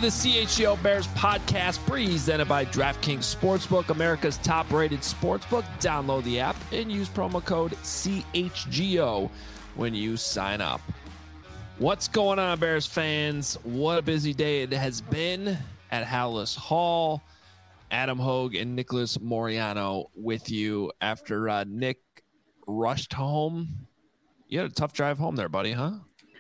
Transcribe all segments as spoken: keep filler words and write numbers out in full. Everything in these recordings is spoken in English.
the C H G O Bears podcast, presented by DraftKings Sportsbook, America's top-rated sportsbook. Download the app and use promo code C H G O when you sign up. What's going on, Bears fans? What a busy day it has been at Hallis Hall. Adam Hogue and Nicholas Moriano with you after uh, Nick rushed home. You had a tough drive home there, buddy, huh?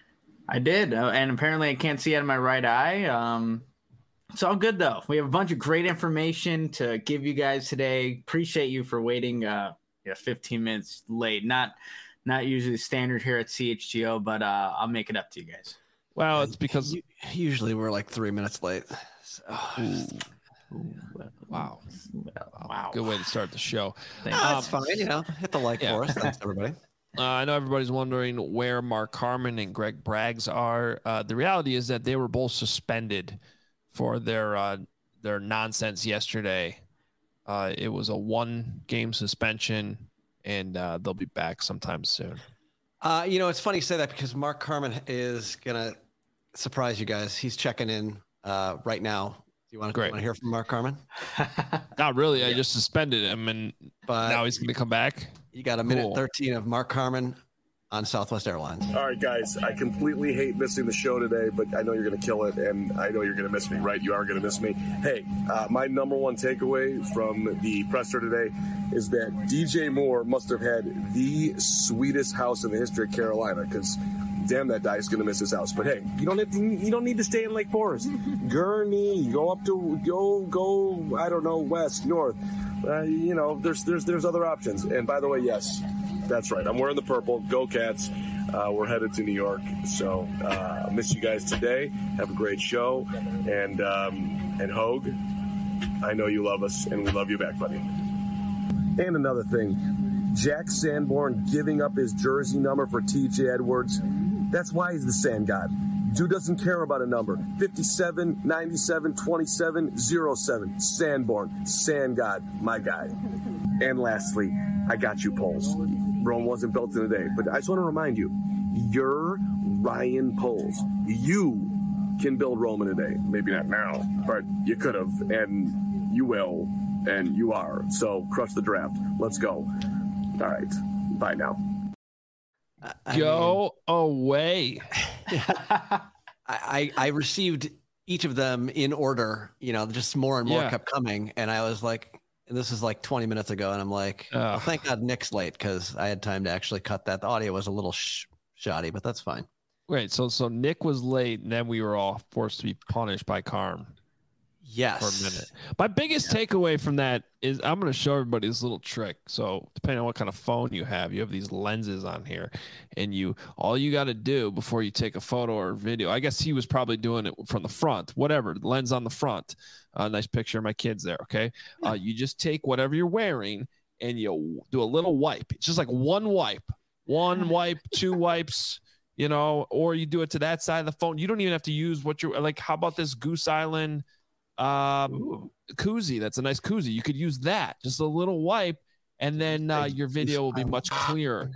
I did, uh, and apparently I can't see out of my right eye. Um, it's all good, though. We have a bunch of great information to give you guys today. Appreciate you for waiting uh, yeah, fifteen minutes late. Not not usually standard here at C H G O, but uh, I'll make it up to you guys. Well, it's because usually we're like three minutes late. So, Ooh. Ooh, wow. wow. Good way to start the show. Oh, that's um, fine. You know, hit the like yeah. for us. Thanks, everybody. Uh, I know everybody's wondering where Mark Carman and Greg Braggs are. Uh, the reality is that they were both suspended for their uh, their nonsense yesterday. Uh, it was a one-game suspension, and uh, they'll be back sometime soon. Uh, you know, it's funny you say that because Mark Carman is going to surprise you guys. He's checking in uh, right now. Do you want to hear from Mark Carman? Not really. I yeah. just suspended him, and but now he's going to come back. You got a minute cool. thirteen of Mark Carman on Southwest Airlines. All right, guys. I completely hate missing the show today, but I know you're going to kill it, and I know you're going to miss me, right? You are going to miss me. Hey, uh, my number one takeaway from the presser today is that D J Moore must have had the sweetest house in the history of Carolina, because damn, that guy's going to miss his house. But hey, you don't have to, you don't need to stay in Lake Forest. Gurnee, go up to go go. I don't know, west, north. Uh, you know, there's there's there's other options. And by the way, yes, that's right. I'm wearing the purple. Go Cats. Uh, we're headed to New York. So uh, I miss you guys today. Have a great show. And um, and Hogue, I know you love us, and we love you back, buddy. And another thing, Jack Sanborn giving up his jersey number for T J Edwards. That's why he's the Sand God. Dude doesn't care about a number. fifty-seven, ninety-seven, twenty-seven, oh seven. Sanborn. Sand God. My guy. And lastly, I got you, Poles. Rome wasn't built in a day. But I just want to remind you, you're Ryan Poles. You can build Rome in a day. Maybe not now, but you could have. And you will. And you are. So crush the draft. Let's go. All right. Bye now. I Go mean, away. I, I received each of them in order, you know, just more and more yeah. kept coming. And I was like, and this is like twenty minutes ago. And I'm like, oh. well, thank God Nick's late because I had time to actually cut that. The audio was a little sh- shoddy, but that's fine. Wait, so so Nick was late and then we were all forced to be punished by Carm. Yes. For a minute. My biggest yeah. takeaway from that is I'm going to show everybody this little trick. So depending on what kind of phone you have, you have these lenses on here, and you all you got to do before you take a photo or video. I guess he was probably doing it from the front, whatever lens on the front. Uh, nice picture of my kids there. Okay. Uh, you just take whatever you're wearing and you do a little wipe. It's just like one wipe, one wipe, two wipes, you know, or you do it to that side of the phone. You don't even have to use what you're like. How about this Goose Island um Ooh. koozie? That's a nice koozie. You could use that, just a little wipe, and then uh, your video will be much clearer.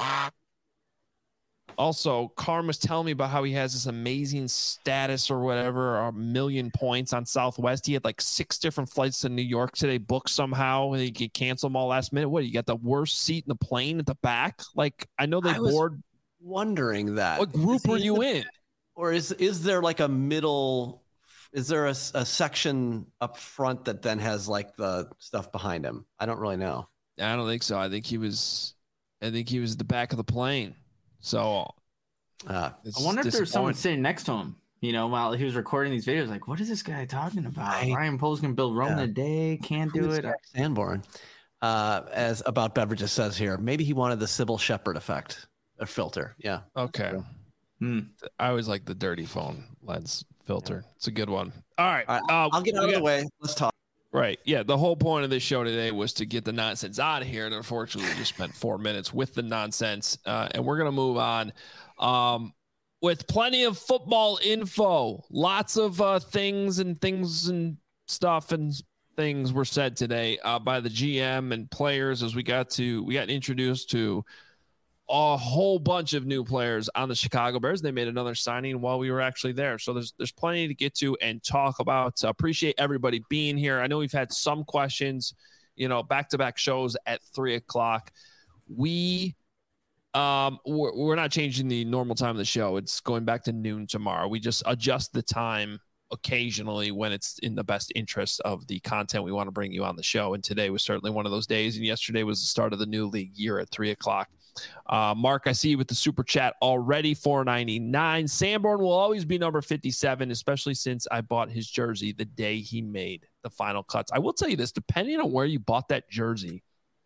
Also, Carm was telling me about how he has this amazing status or whatever, a million points on Southwest. He had like six different flights to New York today booked somehow. He could cancel them all last minute. What, you got the worst seat in the plane at the back? Like, I know they board. Wondering that. What group were you in? Or is is there like a middle? Is there a, a section up front that then has like the stuff behind him? I don't really know. I don't think so. I think he was, I think he was at the back of the plane. So uh, I wonder if there's someone sitting next to him, you know, while he was recording these videos. Like, what is this guy talking about? I, Ryan Poles can build Rome yeah. in a day. Can't do it. Sanborn, uh, as About Beverages says here, maybe he wanted the Sybil Shepherd effect, a filter. Yeah. Okay. Hmm. I always like the dirty phone lens filter. It's a good one. All right. All right. Uh, I'll get out of got, the way. Let's talk. Right. Yeah. The whole point of this show today was to get the nonsense out of here. And unfortunately, we just spent four minutes with the nonsense. Uh, and we're going to move on um, with plenty of football info. Lots of uh, things and things and stuff and things were said today uh, by the G M and players as we got to we got introduced to a whole bunch of new players on the Chicago Bears. They made another signing while we were actually there. So there's there's plenty to get to and talk about. So appreciate everybody being here. I know we've had some questions, you know, back-to-back shows at three o'clock. We, um, we're, we're not changing the normal time of the show. It's going back to noon tomorrow. We just adjust the time occasionally when it's in the best interest of the content we want to bring you on the show. And today was certainly one of those days. And yesterday was the start of the new league year at three o'clock. Uh, Mark, I see you with the super chat already, four ninety-nine. Sanborn will always be number fifty-seven, especially since I bought his jersey the day he made the final cuts. I will tell you this, depending on where you bought that jersey,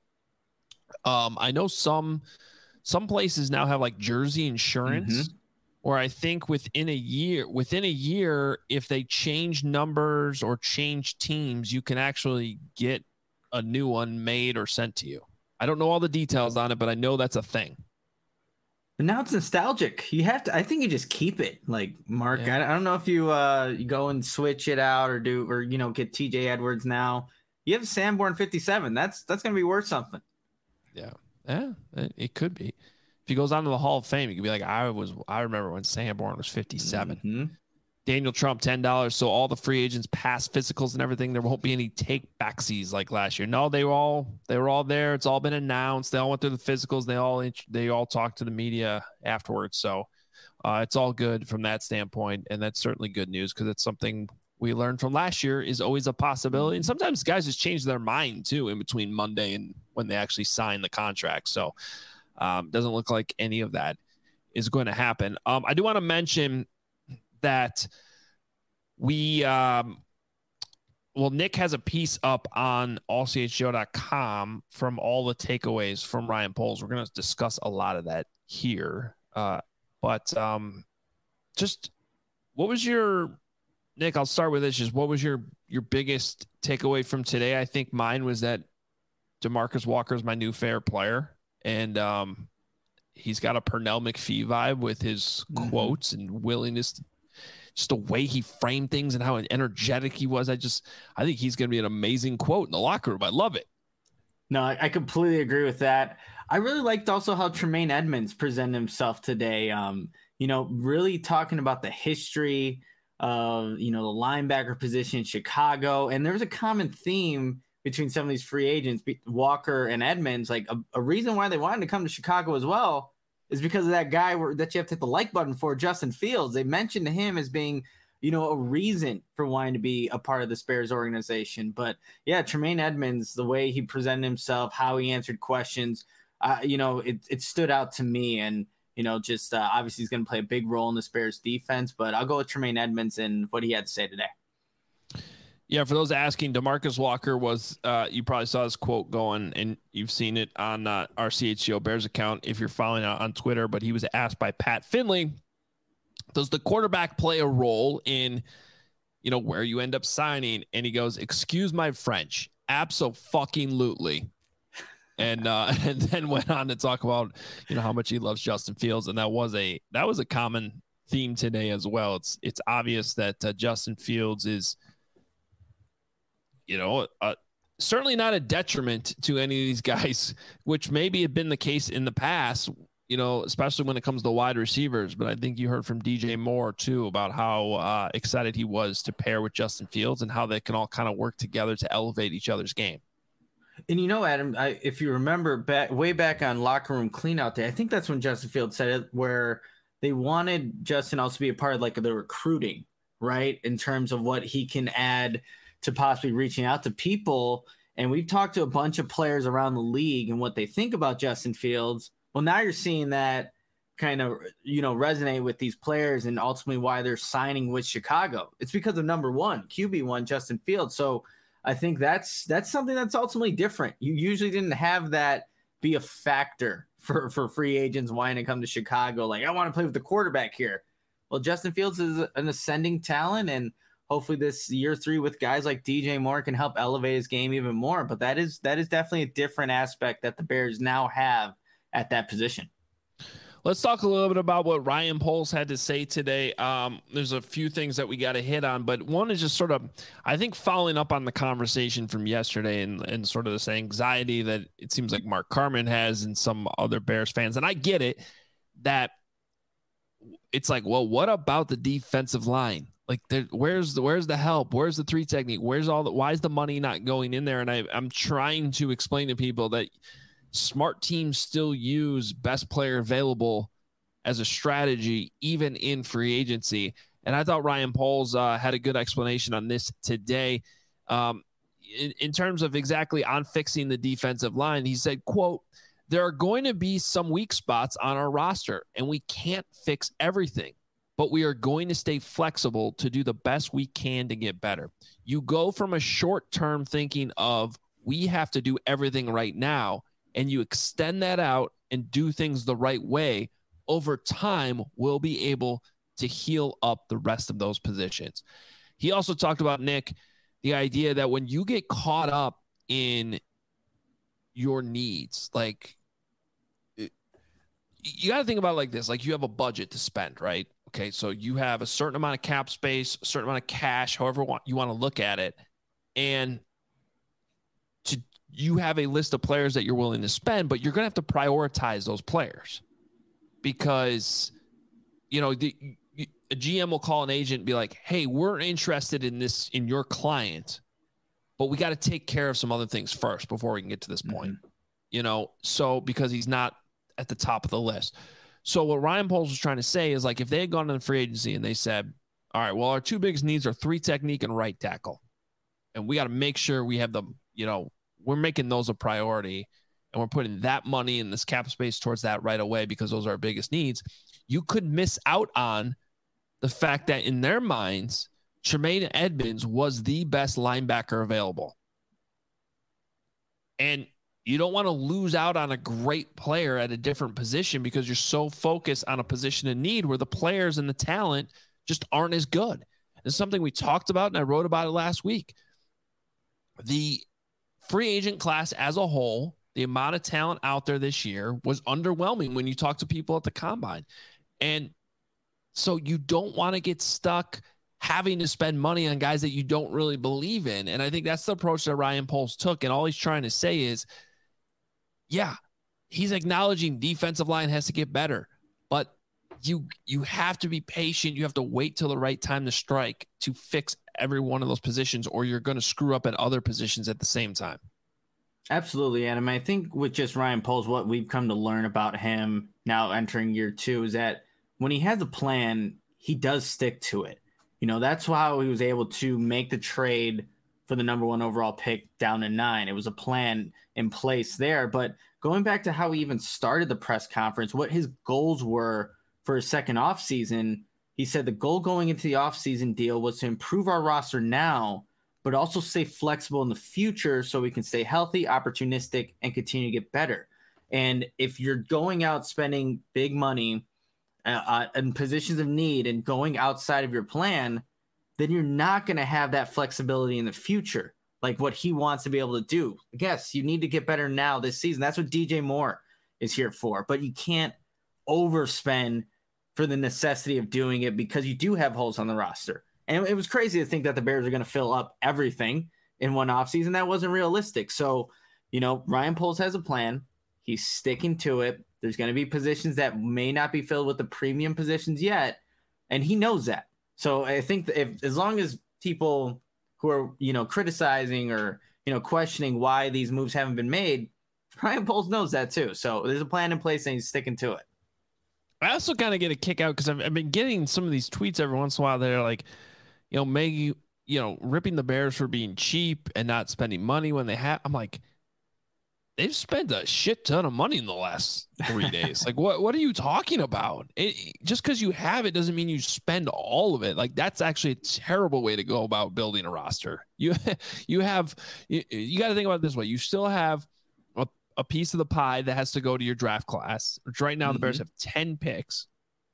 um, I know some some places now have like jersey insurance, mm-hmm. or I think within a year, within a year, if they change numbers or change teams, you can actually get a new one made or sent to you. I don't know all the details on it, but I know that's a thing. And now it's nostalgic. You have to, I think you just keep it. Like, Mark, yeah. I, I don't know if you uh you go and switch it out or do, or, you know, get T J Edwards now. You have Sanborn fifty-seven. That's, that's going to be worth something. Yeah. Yeah, it could be. If he goes on to the Hall of Fame, he could be like, I was, I remember when Sanborn was fifty-seven. Mm-hmm. Daniel Trump, ten dollars. So all the free agents pass physicals and everything. There won't be any take backsies like last year. No, they were all they were all there. It's all been announced. They all went through the physicals. They all they all talked to the media afterwards. So uh, it's all good from that standpoint, and that's certainly good news because it's something we learned from last year is always a possibility. And sometimes guys just change their mind too in between Monday and when they actually sign the contract. So um, doesn't look like any of that is going to happen. Um, I do want to mention that we, um, well, Nick has a piece up on all c h go dot com from all the takeaways from Ryan Poles. We're going to discuss a lot of that here. Uh, but um, just what was your, Nick, I'll start with this. Just what was your, your biggest takeaway from today? I think mine was that DeMarcus Walker is my new favorite player. And um, he's got a Pernell McPhee vibe with his mm-hmm. quotes and willingness to, just the way he framed things and how energetic he was. I just, I think he's going to be an amazing quote in the locker room. I love it. No, I completely agree with that. I really liked also how Tremaine Edmonds presented himself today. Um, you know, really talking about the history of, you know, the linebacker position in Chicago. And there was a common theme between some of these free agents, Walker and Edmonds, like a, a reason why they wanted to come to Chicago as well is because of that guy where, that you have to hit the like button for, Justin Fields. They mentioned him as being, you know, a reason for wanting to be a part of the Bears organization. But yeah, Tremaine Edmonds, the way he presented himself, how he answered questions, uh, you know, it, it stood out to me. And, you know, just uh, obviously he's going to play a big role in the Bears defense, but I'll go with Tremaine Edmonds and what he had to say today. Yeah, for those asking, DeMarcus Walker was, uh, you probably saw this quote going, and you've seen it on uh, our C H G O Bears account if you're following it on Twitter, but he was asked by Pat Finley, does the quarterback play a role in, you know, where you end up signing? And he goes, excuse my French, abso-fucking-lutely. And uh, and then went on to talk about, you know, how much he loves Justin Fields, and that was a that was a common theme today as well. It's it's obvious that uh, Justin Fields is, you know, uh, certainly not a detriment to any of these guys, which maybe had been the case in the past, you know, especially when it comes to wide receivers. But I think you heard from D J Moore, too, about how uh, excited he was to pair with Justin Fields and how they can all kind of work together to elevate each other's game. And, you know, Adam, I, if you remember back way back on Locker Room Cleanout Day, I think that's when Justin Fields said it, where they wanted Justin also to be a part of like the recruiting, right, in terms of what he can add to possibly reaching out to people. And we've talked to a bunch of players around the league and what they think about Justin Fields. Well, now you're seeing that kind of, you know, resonate with these players and ultimately why they're signing with Chicago. It's because of number one, Q B one, Justin Fields. So I think that's that's something that's ultimately different. You usually didn't have that be a factor for, for free agents wanting to come to Chicago. Like, I want to play with the quarterback here. Well, Justin Fields is an ascending talent, and hopefully this year three with guys like D J Moore can help elevate his game even more. But that is that is definitely a different aspect that the Bears now have at that position. let's talk a little bit about what Ryan Poles had to say today. Um, there's a few things that we got to hit on, but one is just sort of, I think, following up on the conversation from yesterday and, and sort of this anxiety that it seems like Mark Carman has and some other Bears fans. And I get it, that it's like, well, what about the defensive line? Like, there, where's the where's the help? Where's the three technique? Where's all the why is the money not going in there? And I, I'm trying to explain to people that smart teams still use best player available as a strategy, even in free agency. And I thought Ryan Poles uh, had a good explanation on this today. Um, in, in terms of exactly on fixing the defensive line, he said, quote, "There are going to be some weak spots on our roster, and we can't fix everything. But we are going to stay flexible to do the best we can to get better. You go from a short-term thinking of we have to do everything right now, and you extend that out and do things the right way. Over time, we'll be able to heal up the rest of those positions." He also talked about, Nick, the idea that when you get caught up in your needs, like you got to think about it like this, like you have a budget to spend, right? Okay, so you have a certain amount of cap space, a certain amount of cash, however you want to look at it. And to you have a list of players that you're willing to spend, but you're going to have to prioritize those players because, you know, the, a G M will call an agent and be like, hey, we're interested in this, in your client, but we got to take care of some other things first before we can get to this point, mm-hmm. you know? So because he's not at the top of the list. So what Ryan Poles was trying to say is, like, if they had gone to the free agency and they said, all right, well, our two biggest needs are three technique and right tackle. And we got to make sure we have them, you know, we're making those a priority and we're putting that money in this cap space towards that right away because those are our biggest needs. You could miss out on the fact that in their minds, Tremaine Edmunds was the best linebacker available. And you don't want to lose out on a great player at a different position because you're so focused on a position of need where the players and the talent just aren't as good. It's something we talked about, and I wrote about it last week. The free agent class as a whole, the amount of talent out there this year was underwhelming when you talk to people at the combine. And so you don't want to get stuck having to spend money on guys that you don't really believe in. And I think that's the approach that Ryan Poles took. And all he's trying to say is, yeah, he's acknowledging defensive line has to get better, but you you have to be patient. You have to wait till the right time to strike to fix every one of those positions, or you're going to screw up at other positions at the same time. Absolutely, Adam. I think with just Ryan Poles, what we've come to learn about him now entering year two is that when he has a plan, he does stick to it. You know, that's how he was able to make the trade for the number one overall pick down to nine. It was a plan in place there. But going back to how he even started the press conference, what his goals were for his second offseason, he said the goal going into the offseason deal was to improve our roster now, but also stay flexible in the future so we can stay healthy, opportunistic, and continue to get better. And if you're going out spending big money uh, in positions of need and going outside of your plan, then you're not going to have that flexibility in the future, like what he wants to be able to do. Yes, you need to get better now this season. That's what D J Moore is here for. But you can't overspend for the necessity of doing it because you do have holes on the roster. And it was crazy to think that the Bears are going to fill up everything in one offseason. That wasn't realistic. So, you know, Ryan Poles has a plan. He's sticking to it. There's going to be positions that may not be filled with the premium positions yet, and he knows that. So I think that if, as long as people who are, you know, criticizing or, you know, questioning why these moves haven't been made, Ryan Poles knows that too. So there's a plan in place and he's sticking to it. I also kind of get a kick out because I've, I've been getting some of these tweets every once in a while that are like, you know, maybe, you know, ripping the Bears for being cheap and not spending money when they have. I'm like, they've spent a shit ton of money in the last three days. Like, what, what are you talking about? It, just because you have it doesn't mean you spend all of it. Like, that's actually a terrible way to go about building a roster. You, you have, you, you got to think about it this way. You still have a, a piece of the pie that has to go to your draft class, which right now mm-hmm. the Bears have ten picks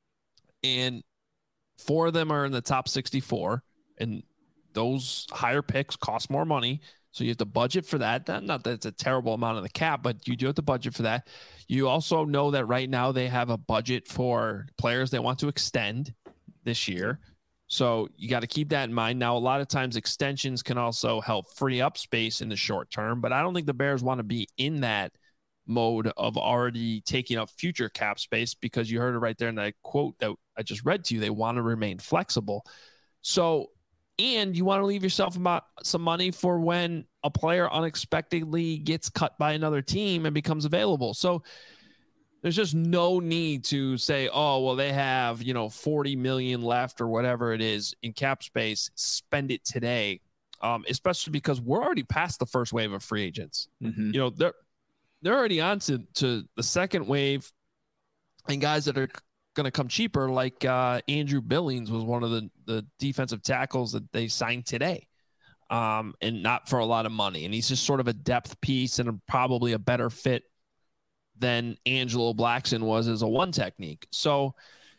and four of them are in the top sixty-four. And those higher picks cost more money. So you have to budget for that. Not that it's a terrible amount of the cap, but you do have to budget for that. You also know that right now they have a budget for players they want to extend this year. So you got to keep that in mind. Now, a lot of times extensions can also help free up space in the short term, but I don't think the Bears want to be in that mode of already taking up future cap space, because you heard it right there in that quote that I just read to you. They want to remain flexible. So, and you want to leave yourself about some money for when a player unexpectedly gets cut by another team and becomes available. So there's just no need to say, oh, well, they have, you know, forty million left or whatever it is in cap space, spend it today. Um, especially because we're already past the first wave of free agents. Mm-hmm. You know, they're, they're already on to, to the second wave, and guys that are going to come cheaper, like uh, Andrew Billings was one of the, the defensive tackles that they signed today, um, and not for a lot of money. And he's just sort of a depth piece and a, probably a better fit than Angelo Blackson was as a one technique. So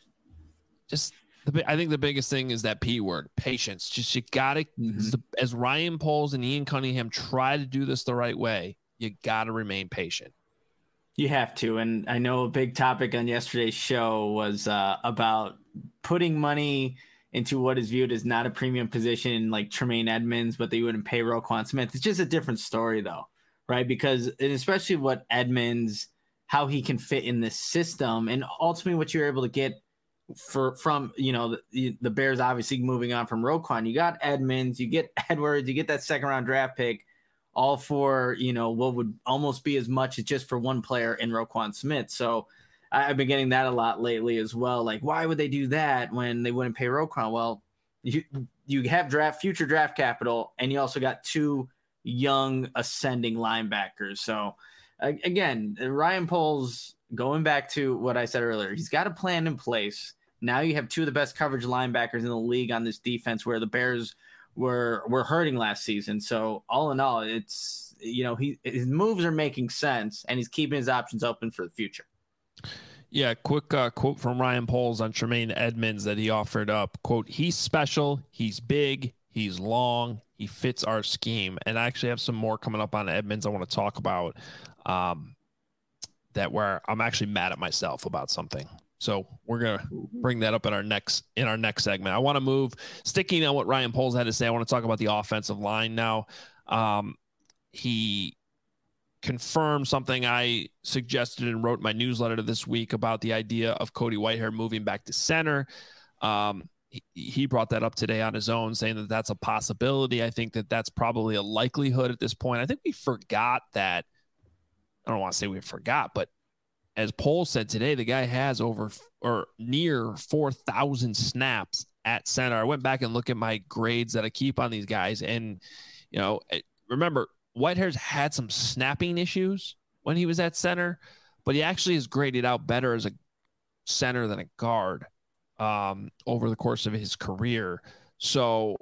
just, the, I think the biggest thing is that P word, patience. Just, you got to, mm-hmm. as Ryan Poles and Ian Cunningham try to do this the right way, you got to remain patient. You have to. And I know a big topic on yesterday's show was uh, about putting money into what is viewed as not a premium position like Tremaine Edmonds, but they wouldn't pay Roquan Smith. It's just a different story though, right? Because, and especially what Edmonds, how he can fit in this system, and ultimately what you're able to get for from, you know, the, the Bears obviously moving on from Roquan. You got Edmonds, you get Edwards, you get that second round draft pick, all for, you know, what would almost be as much as just for one player in Roquan Smith. So I've been getting that a lot lately as well. Like, why would they do that when they wouldn't pay Roquan? Well, you you have draft future draft capital, and you also got two young ascending linebackers. So again, Ryan Poles, going back to what I said earlier, he's got a plan in place. Now you have two of the best coverage linebackers in the league on this defense, where the Bears were were hurting last season. So all in all, it's, you know, he his moves are making sense, and he's keeping his options open for the future. Yeah, quick uh, quote from Ryan Poles on Tremaine Edmonds that he offered up. Quote, he's special, he's big, he's long, he fits our scheme. And I actually have some more coming up on Edmonds I want to talk about. Um, that where I'm actually mad at myself about something. So we're going to bring that up in our next, in our next segment. I want to move, sticking on what Ryan Poles had to say. I want to talk about the offensive line now. Um, he confirmed something I suggested and wrote in my newsletter this week about the idea of Cody Whitehair moving back to center. Um, he, he brought that up today on his own, saying that that's a possibility. I think that that's probably a likelihood at this point. I think we forgot that. I don't want to say we forgot, but as Poles said today, the guy has over or near four thousand snaps at center. I went back and looked at my grades that I keep on these guys. And, you know, remember, Whitehair's had some snapping issues when he was at center, but he actually is graded out better as a center than a guard um, over the course of his career. So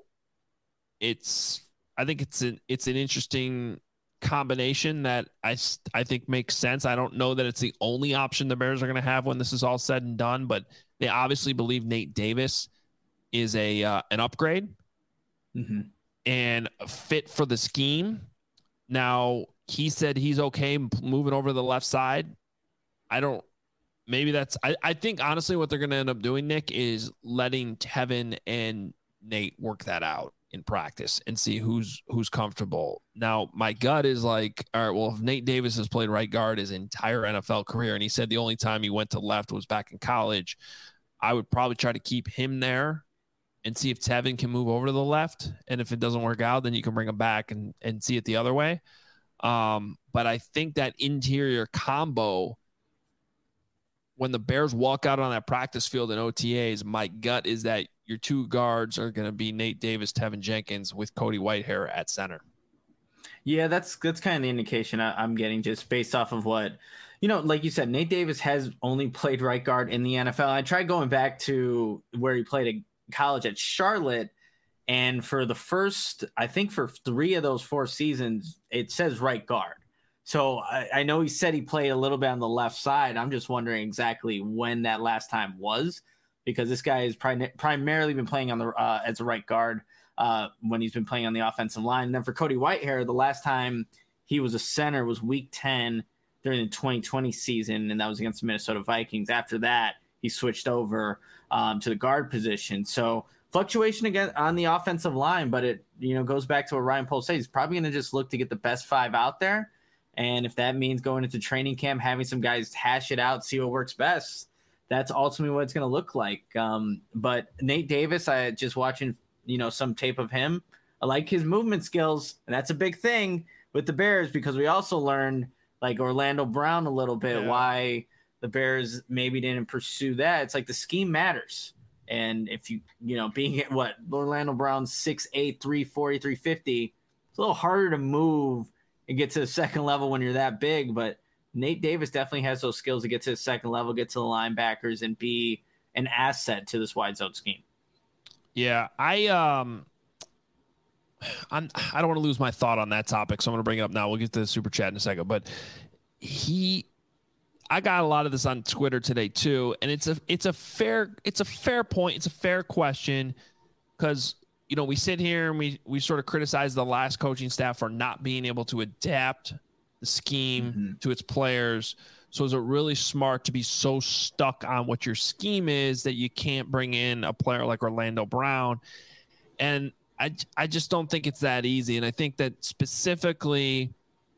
it's, I think it's an, it's an interesting combination that I, I think makes sense. I don't know that it's the only option the Bears are going to have when this is all said and done, but they obviously believe Nate Davis is a uh, an upgrade mm-hmm. and a fit for the scheme. Now, he said he's okay moving over to the left side. I don't, maybe that's, I, I think honestly what they're going to end up doing, Nick, is letting Tevin and Nate work that out in practice and see who's who's comfortable. Now, my gut is like, all right, well, if Nate Davis has played right guard his entire N F L career, and he said the only time he went to left was back in college, I would probably try to keep him there and see if Tevin can move over to the left. And if it doesn't work out, then you can bring him back and, and see it the other way. Um, but I think that interior combo, when the Bears walk out on that practice field in O T As, my gut is that your two guards are going to be Nate Davis, Tevin Jenkins, with Cody Whitehair at center. Yeah, that's that's kind of the indication I, I'm getting, just based off of what, you know, like you said, Nate Davis has only played right guard in the N F L. I tried going back to where he played at college at Charlotte, and for the first, I think for three of those four seasons, it says right guard. So I, I know he said he played a little bit on the left side. I'm just wondering exactly when that last time was, because this guy has prim- primarily been playing on the uh, as a right guard. uh, when he's been playing on the offensive line. And then for Cody Whitehair, the last time he was a center was week ten during the twenty twenty season, and that was against the Minnesota Vikings. After that, he switched over um, to the guard position. So fluctuation again on the offensive line, but it you know goes back to what Ryan Poles says. He's probably going to just look to get the best five out there. And if that means going into training camp, having some guys hash it out, see what works best, that's ultimately what it's going to look like. Um, but Nate Davis, I just watching, you know, some tape of him. I like his movement skills, and that's a big thing with the Bears because we also learned, like Orlando Brown a little bit, yeah. why the Bears maybe didn't pursue that. It's like the scheme matters. And if you, you know, being at what Orlando Brown's six eight, three forty, three fifty, it's a little harder to move and get to the second level when you're that big. But Nate Davis definitely has those skills to get to the second level, get to the linebackers, and be an asset to this wide zone scheme. Yeah, I um, I'm, I don't want to lose my thought on that topic, so I'm going to bring it up now. We'll get to the super chat in a second. But he, I got a lot of this on Twitter today too, and it's a it's a fair it's a fair point. It's a fair question because, you know, we sit here and we we sort of criticize the last coaching staff for not being able to adapt the scheme mm-hmm. to its players. So is it really smart to be so stuck on what your scheme is that you can't bring in a player like Orlando Brown? And I, I just don't think it's that easy. And I think that specifically,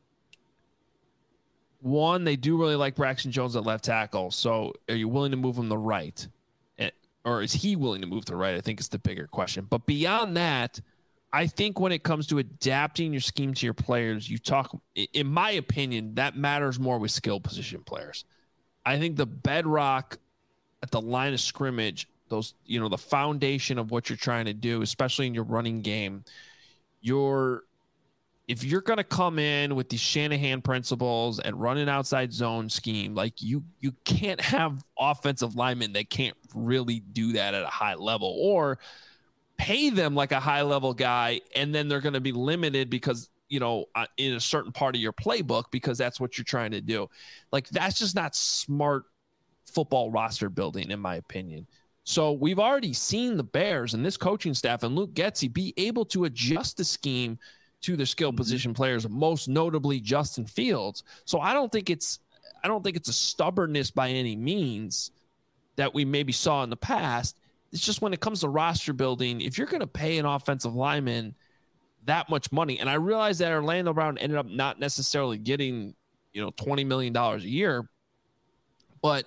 one, they do really like Braxton Jones at left tackle. So are you willing to move him to right? Or is he willing to move to right? I think is the bigger question. But beyond that, I think when it comes to adapting your scheme to your players, you talk, in my opinion, that matters more with skill position players. I think the bedrock at the line of scrimmage, those, you know, the foundation of what you're trying to do, especially in your running game, you're, if you're going to come in with these Shanahan principles and run an outside zone scheme, like you, you can't have offensive linemen that can't really do that at a high level, or pay them like a high level guy. And then they're going to be limited because, you know, uh, in a certain part of your playbook, because that's what you're trying to do. Like, that's just not smart football roster building, in my opinion. So we've already seen the Bears and this coaching staff and Luke Getsy be able to adjust the scheme to their skill position players, most notably Justin Fields. So I don't think it's, I don't think it's a stubbornness by any means that we maybe saw in the past. It's just when it comes to roster building, if you're going to pay an offensive lineman that much money, and I realize that Orlando Brown ended up not necessarily getting, you know, twenty million dollars a year, but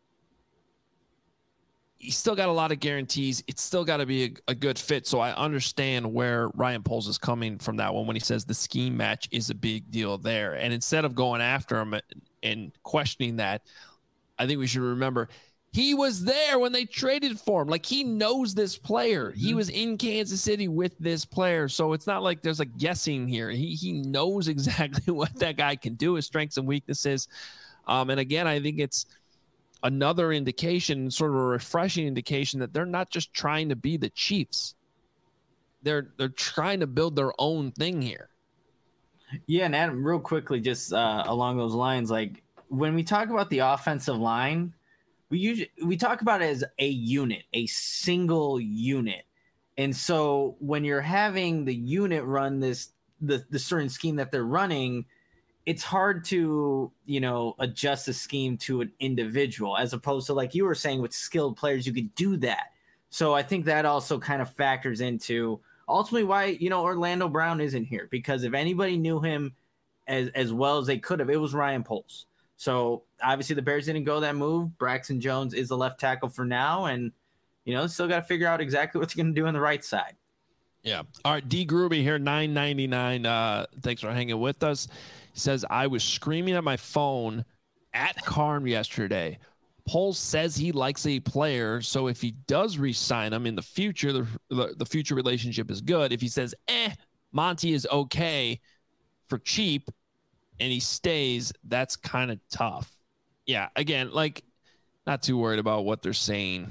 he's still got a lot of guarantees. It's still got to be a, a good fit. So I understand where Ryan Poles is coming from that one when he says the scheme match is a big deal there. And instead of going after him and questioning that, I think we should remember he was there when they traded for him. Like, he knows this player. Mm-hmm. He was in Kansas City with this player. So it's not like there's a guessing here. He he knows exactly what that guy can do, his strengths and weaknesses. Um, and again, I think it's another indication, sort of a refreshing indication, that they're not just trying to be the Chiefs. They're they're trying to build their own thing here. Yeah, and Adam, real quickly, just uh, along those lines, like when we talk about the offensive line, we usually we talk about it as a unit, a single unit. And so when you're having the unit run this the the certain scheme that they're running, it's hard to, you know, adjust the scheme to an individual, as opposed to, like you were saying, with skilled players, you could do that. So I think that also kind of factors into ultimately why, you know, Orlando Brown isn't here, because if anybody knew him as, as well as they could have, it was Ryan Poles. So obviously the Bears didn't go that move. Braxton Jones is the left tackle for now. And, you know, still got to figure out exactly what they're going to do on the right side. Yeah. All right. D Gruby here, nine ninety-nine. Uh, thanks for hanging with us. He says, I was screaming at my phone at Carm yesterday. Poles says he likes a player, so if he does re-sign him in the future, the, the, the future relationship is good. If he says, eh, Monty is okay for cheap, and he stays, that's kind of tough. Yeah, again, like, not too worried about what they're saying.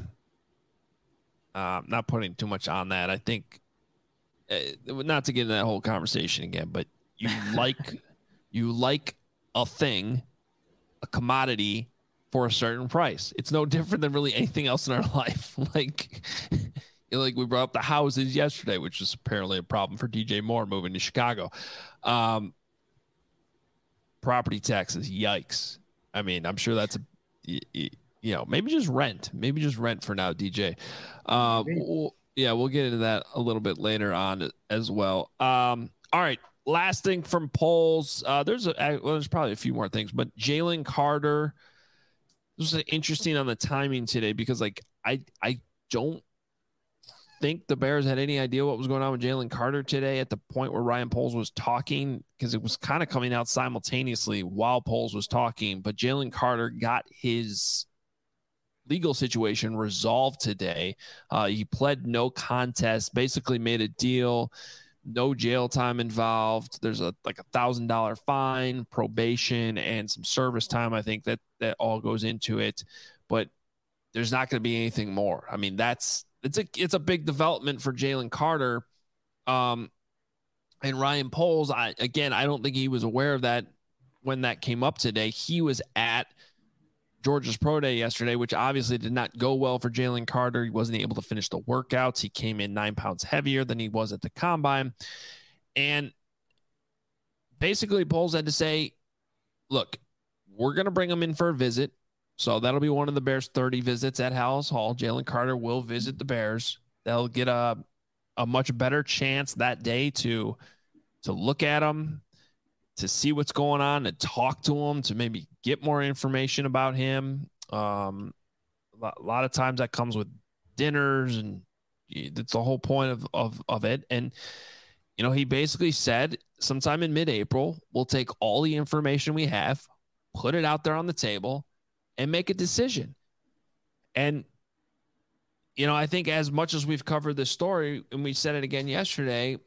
Uh, not putting too much on that. I think, uh, not to get into that whole conversation again, but you like... You like a thing, a commodity, for a certain price. It's no different than really anything else in our life. Like, Like we brought up the houses yesterday, which is apparently a problem for D J Moore moving to Chicago. Um, property taxes, yikes. I mean, I'm sure that's a, you know, maybe just rent, maybe just rent for now, D J. Uh, we'll, yeah, we'll get into that a little bit later on as well. Um, all right. Last thing from polls. Uh, there's a, well, there's probably a few more things, but Jalen Carter, this was interesting on the timing today because like, I, I don't think the Bears had any idea what was going on with Jalen Carter today at the point where Ryan Poles was talking, because it was kind of coming out simultaneously while Poles was talking. But Jalen Carter got his legal situation resolved today. Uh, he pled no contest, basically made a deal, no jail time involved. There's a like a thousand dollar fine, probation, and some service time. I think that that all goes into it, but there's not going to be anything more. I mean, that's It's a it's a big development for Jalen Carter, um, and Ryan Poles. I again, I don't think he was aware of that when that came up today. He was at Georgia's Pro Day yesterday, which obviously did not go well for Jalen Carter. He wasn't able to finish the workouts. He came in nine pounds heavier than he was at the combine, and basically Poles had to say, "Look, we're going to bring him in for a visit." So that'll be one of the Bears' thirty visits at Hallis Hall. Jalen Carter will visit the Bears. They'll get a a much better chance that day to to look at him, to see what's going on, to talk to him, to maybe get more information about him. Um, a lot of times that comes with dinners, and that's the whole point of of of it. And you know, he basically said sometime in mid-April, we'll take all the information we have, put it out there on the table, and make a decision. And, you know, I think as much as we've covered this story, and we said it again yesterday,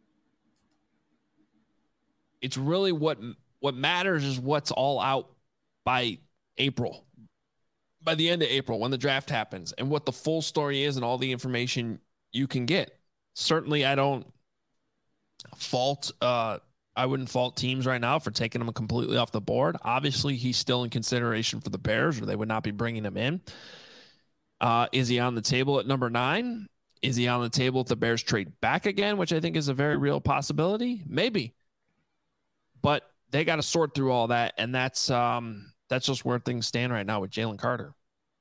it's really what, what matters is what's all out by April, by the end of April, when the draft happens, and what the full story is and all the information you can get. Certainly, I don't fault, uh, I wouldn't fault teams right now for taking him completely off the board. Obviously, he's still in consideration for the Bears, or they would not be bringing him in. Uh, is he on the table at number nine? Is he on the table if the Bears trade back again, which I think is a very real possibility? Maybe. But they got to sort through all that, and that's um, that's just where things stand right now with Jalen Carter.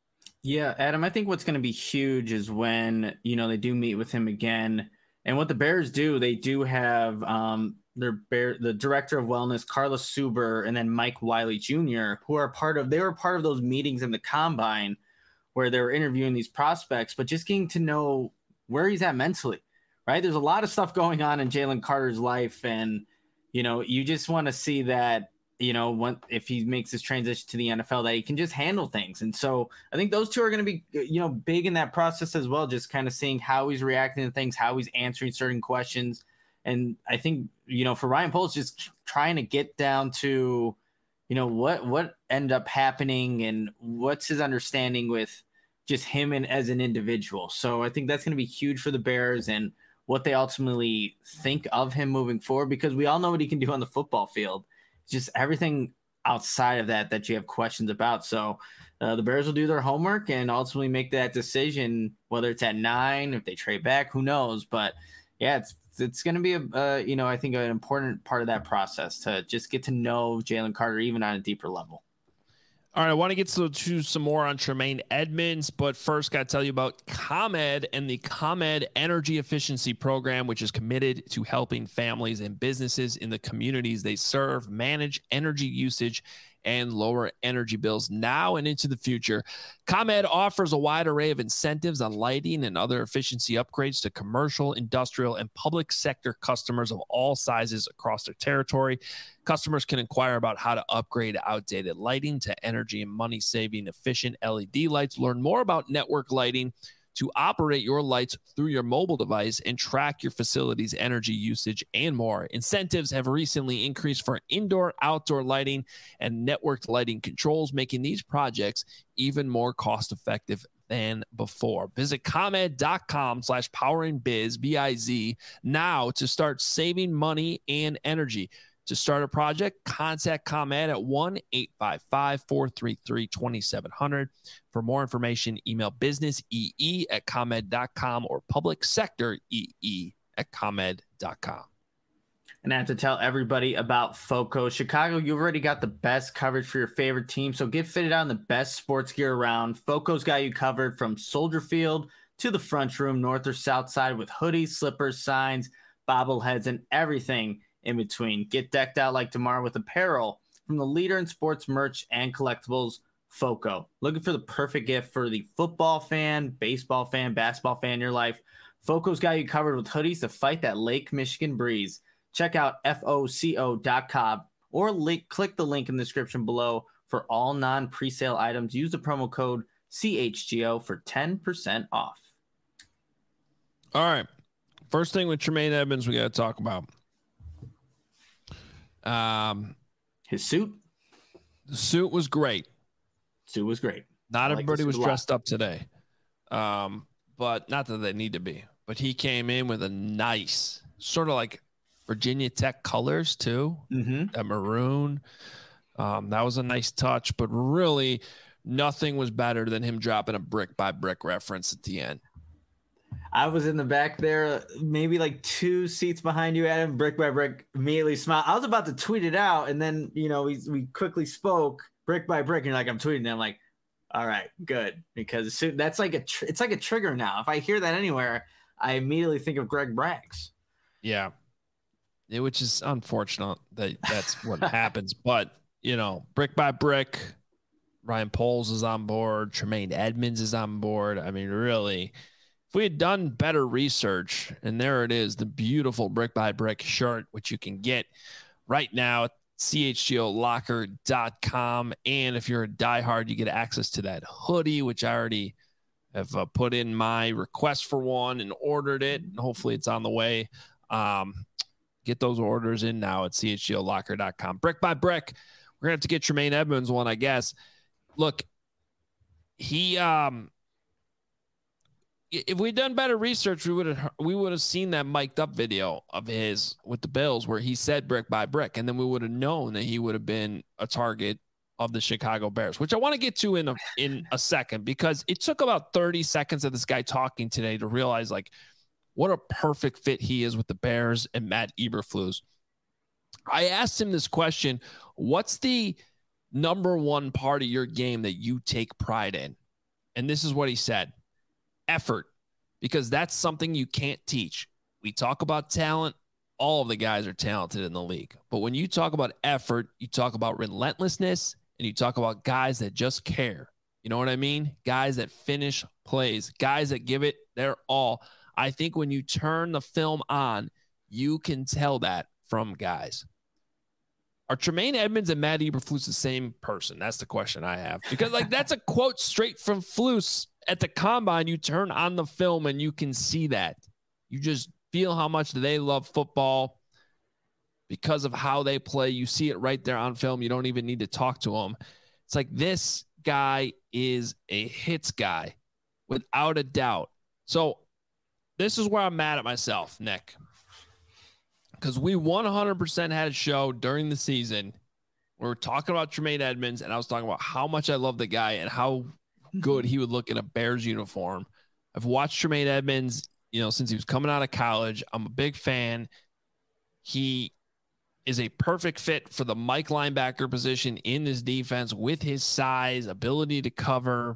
Yeah, Adam, I think what's going to be huge is when, you know, they do meet with him again. And what the Bears do, they do have um, – Their bear, the director of wellness, Carlos Suber, and then Mike Wiley Junior, who are part of, they were part of those meetings in the combine where they were interviewing these prospects, but just getting to know where he's at mentally, right? There's a lot of stuff going on in Jalen Carter's life. And, you know, you just want to see that, you know, when, if he makes this transition to the N F L, that he can just handle things. And so I think those two are going to be, you know, big in that process as well, just kind of seeing how he's reacting to things, how he's answering certain questions. And I think, you know, for Ryan Poles, just trying to get down to, you know, what what ended up happening and what's his understanding with just him and as an individual. So I think that's going to be huge for the Bears and what they ultimately think of him moving forward, because we all know what he can do on the football field. It's just everything outside of that that you have questions about. So uh, the Bears will do their homework and ultimately make that decision, whether it's at nine, if they trade back, who knows. But yeah, it's it's going to be a uh, you know, I think an important part of that process to just get to know Jalen Carter even on a deeper level. All right, I want to get to, to some more on Tremaine Edmunds, but first got to tell you about ComEd and the ComEd Energy Efficiency Program, which is committed to helping families and businesses in the communities they serve manage energy usage and lower energy bills now and into the future. ComEd offers a wide array of incentives on lighting and other efficiency upgrades to commercial, industrial, and public sector customers of all sizes across their territory. Customers can inquire about how to upgrade outdated lighting to energy and money-saving efficient L E D lights. Learn more about network lighting to operate your lights through your mobile device and track your facility's energy usage and more. Incentives have recently increased for indoor, outdoor lighting and networked lighting controls, making these projects even more cost-effective than before. Visit ComEd.com slash powering biz, B I Z, now to start saving money and energy. To start a project, contact ComEd at one eight five five, four three three, two seven zero zero. For more information, email businessee at comed dot com or public sector ee at comed dot com. And I have to tell everybody about FOCO. Chicago, you already got the best coverage for your favorite team, so get fitted out in the best sports gear around. FOCO's got you covered from Soldier Field to the front room, north or south side, with hoodies, slippers, signs, bobbleheads, and everything in between. Get decked out like tomorrow with apparel from the leader in sports merch and collectibles, FOCO. Looking for the perfect gift for the football fan, baseball fan, basketball fan in your life? FOCO's got you covered with hoodies to fight that Lake Michigan breeze. Check out F O C O dot com or link, click the link in the description below for all non-presale items. Use the promo code C H G O for ten percent off. All right. First thing with Tremaine Edmunds we got to talk about. Um, His suit? The suit was great. Suit was great. Not I everybody like was dressed up today. Um, but not that they need to be. But he came in with a nice, sort of like Virginia Tech colors too. Mm-hmm. That maroon. Um, that was a nice touch, but really nothing was better than him dropping a brick by brick reference at the end. I was in the back there, maybe like two seats behind you, Adam. Brick by brick, immediately smiled. I was about to tweet it out, and then you know we we quickly spoke brick by brick, and you're like, I'm tweeting it. I'm like, all right, good, because that's like a tr- it's like a trigger now. If I hear that anywhere, I immediately think of Greg Braggs. Yeah, it, which is unfortunate that that's what happens. But you know, brick by brick, Ryan Poles is on board. Tremaine Edmunds is on board. I mean, really. If we had done better research, and there it is, the beautiful brick by brick shirt, which you can get right now at C H G O locker dot com. And if you're a diehard, you get access to that hoodie, which I already have uh, put in my request for one and ordered it. And hopefully it's on the way. Um, get those orders in now at C H G O locker dot com. Brick by brick. We're going to have to get Tremaine Edmunds one, I guess. Look, he, um, if we'd done better research, we would have we would have seen that mic'd up video of his with the Bills where he said brick by brick, and then we would have known that he would have been a target of the Chicago Bears, which I want to get to in a, in a second, because it took about thirty seconds of this guy talking today to realize like what a perfect fit he is with the Bears and Matt Eberflus. I asked him this question: what's the number one part of your game that you take pride in? And this is what he said. Effort, because that's something you can't teach. We talk about talent. All of the guys are talented in the league. But when you talk about effort, you talk about relentlessness, and you talk about guys that just care. You know what I mean? Guys that finish plays, guys that give it their all. I think when you turn the film on, you can tell that from guys. Are Tremaine Edmunds and Matt Eberflus the same person? That's the question I have. Because like that's a quote straight from Flus. At the combine, you turn on the film and you can see that. You just feel how much they love football because of how they play. You see it right there on film. You don't even need to talk to them. It's like this guy is a hits guy without a doubt. So this is where I'm mad at myself, Nick, because we one hundred percent had a show during the season. We were talking about Tremaine Edmunds, and I was talking about how much I love the guy and how good he would look in a Bears uniform. I've watched Tremaine Edmunds, you know, since he was coming out of college. I'm a big fan. He is a perfect fit for the Mike linebacker position in this defense with his size, ability to cover.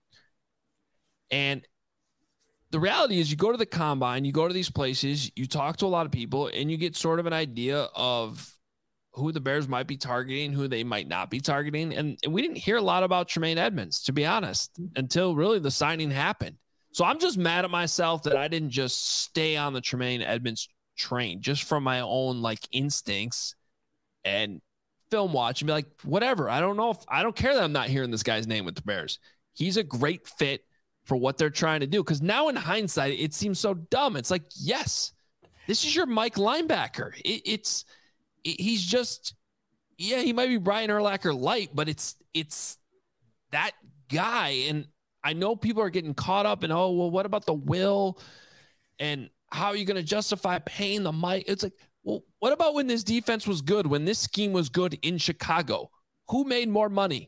And the reality is you go to the combine, you go to these places, you talk to a lot of people, and you get sort of an idea of who the Bears might be targeting, who they might not be targeting. And, and we didn't hear a lot about Tremaine Edmunds, to be honest, until really the signing happened. So I'm just mad at myself that I didn't just stay on the Tremaine Edmunds train just from my own like instincts and film watch and be like, whatever. I don't know if I don't care that I'm not hearing this guy's name with the Bears. He's a great fit for what they're trying to do. Cause now in hindsight, it seems so dumb. It's like, yes, this is your Mike linebacker. It, it's, He's just, yeah, he might be Brian Urlacher light, but it's it's that guy. And I know people are getting caught up in, oh, well, what about the will? And how are you going to justify paying the Mike? It's like, Well, what about when this defense was good, when this scheme was good in Chicago? Who made more money?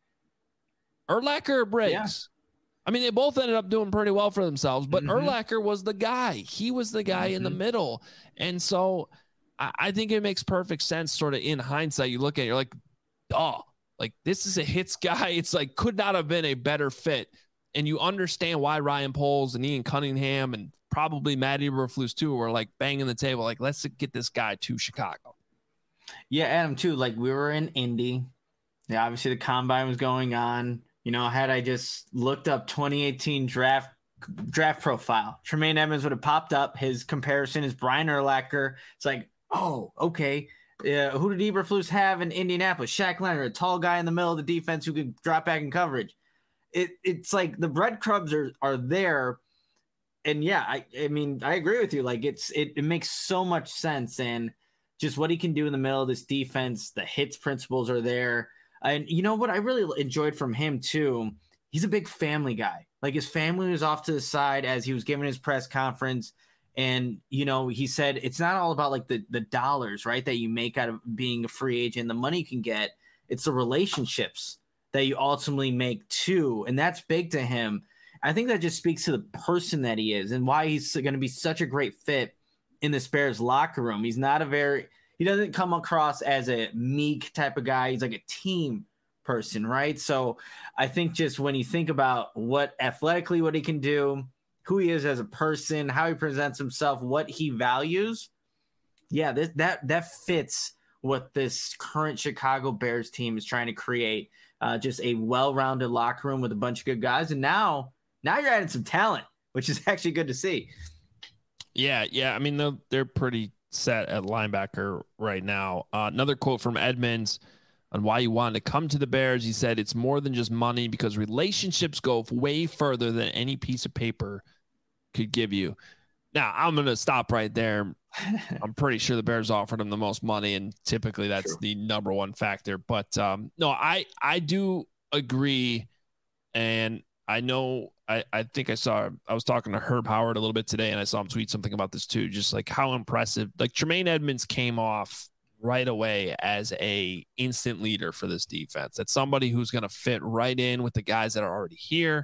Urlacher or Briggs? Yeah. I mean, they both ended up doing pretty well for themselves, but mm-hmm. Urlacher was the guy. He was the guy mm-hmm. in the middle. And so I, I think it makes perfect sense sort of in hindsight. You look at it, you're like, oh, like this is a hits guy. It's like could not have been a better fit. And you understand why Ryan Poles and Ian Cunningham and probably Matt Eberflus too were like banging the table. Like, let's get this guy to Chicago. Yeah, Adam too. Like we were in Indy. Yeah, obviously the combine was going on. You know, had I just looked up twenty eighteen draft draft profile, Tremaine Edmonds would have popped up. His comparison is Brian Urlacher. It's like, oh, okay. Uh, who did Eberflus have in Indianapolis? Shaq Leonard, a tall guy in the middle of the defense who could drop back in coverage. It it's like the breadcrumbs are are there. And yeah, I I mean, I agree with you. Like it's it, it makes so much sense. And just what he can do in the middle of this defense, the hits principles are there. And you know what I really enjoyed from him too? He's a big family guy. Like his family was off to the side as he was giving his press conference. And, you know, he said it's not all about like the, the dollars, right, that you make out of being a free agent, the money you can get. It's the relationships that you ultimately make too. And that's big to him. I think that just speaks to the person that he is and why he's going to be such a great fit in the Bears locker room. He's not a very – he doesn't come across as a meek type of guy. He's like a team person, right? So I think just when you think about what athletically what he can do, who he is as a person, how he presents himself, what he values, yeah, this, that that fits what this current Chicago Bears team is trying to create. Uh, just a well-rounded locker room with a bunch of good guys. And now, now you're adding some talent, which is actually good to see. Yeah, yeah. I mean, they're, they're pretty set at linebacker right now. Uh, another quote from Edmonds on why he wanted to come to the Bears. He said, it's more than just money because relationships go way further than any piece of paper could give you. Now, I'm going to stop right there. I'm pretty sure the Bears offered him the most money, and typically that's True. the number one factor. But um, no, I, I do agree. And I know, I, I think I saw, I was talking to Herb Howard a little bit today, and I saw him tweet something about this too, just like how impressive, like Tremaine Edmonds came off right away as a instant leader for this defense. That's somebody who's going to fit right in with the guys that are already here.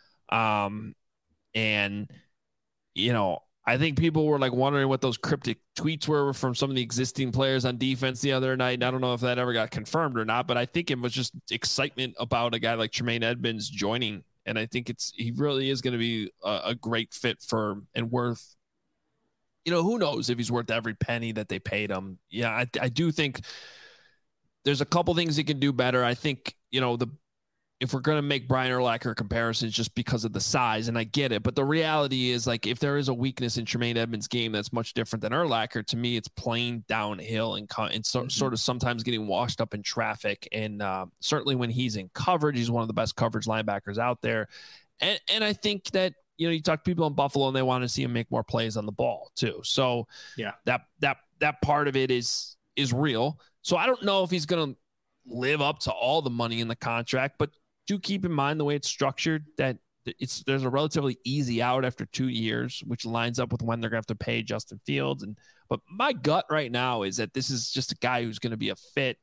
Um, and, you know, I think people were like wondering what those cryptic tweets were from some of the existing players on defense the other night. And I don't know if that ever got confirmed or not, but I think it was just excitement about a guy like Tremaine Edmonds joining. And I think it's, he really is going to be a, a great fit for and worth, you know, who knows if he's worth every penny that they paid him. Yeah. I, I do think there's a couple things he can do better. I think, you know, the, if we're going to make Brian Urlacher comparisons just because of the size, and I get it, but the reality is, like, if there is a weakness in Tremaine Edmonds' game that's much different than Urlacher, to me, it's playing downhill and, and so, mm-hmm. sort of sometimes getting washed up in traffic. And uh, certainly when he's in coverage, he's one of the best coverage linebackers out there. And, and I think that, you know, you talk to people in Buffalo and they want to see him make more plays on the ball too. So yeah, that, that, that part of it is, is real. So I don't know if he's going to live up to all the money in the contract, but do keep in mind the way it's structured that it's there's a relatively easy out after two years, which lines up with when they're going to have to pay Justin Fields. And but my gut right now is that this is just a guy who's going to be a fit,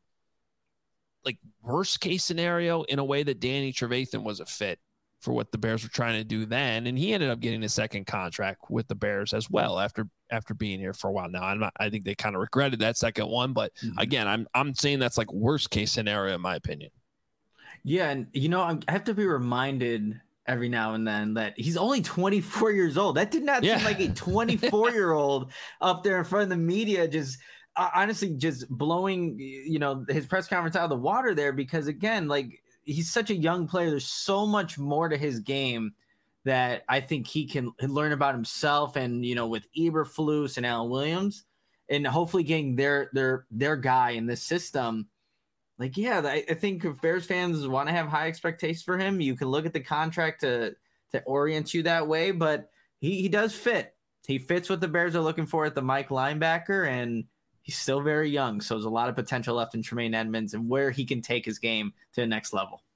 like worst case scenario, in a way that Danny Trevathan was a fit for what the Bears were trying to do then, and he ended up getting a second contract with the Bears as well after after being here for a while. Now I'm not, I think they kind of regretted that second one, but mm-hmm. again, I'm I'm saying that's like worst case scenario in my opinion. Yeah, and you know, I have to be reminded every now and then that he's only twenty-four years old. That did not yeah. seem like a twenty-four-year-old up there in front of the media, just uh, honestly just blowing, you know, his press conference out of the water there. Because again, like he's such a young player. There's so much more to his game that I think he can learn about himself, and you know, with Eberflus and Alan Williams, and hopefully getting their their their guy in this system. Like, yeah, I, I think if Bears fans want to have high expectations for him, you can look at the contract to to orient you that way. But he, he does fit. He fits what the Bears are looking for at the Mike linebacker, and he's still very young. So there's a lot of potential left in Tremaine Edmonds and where he can take his game to the next level.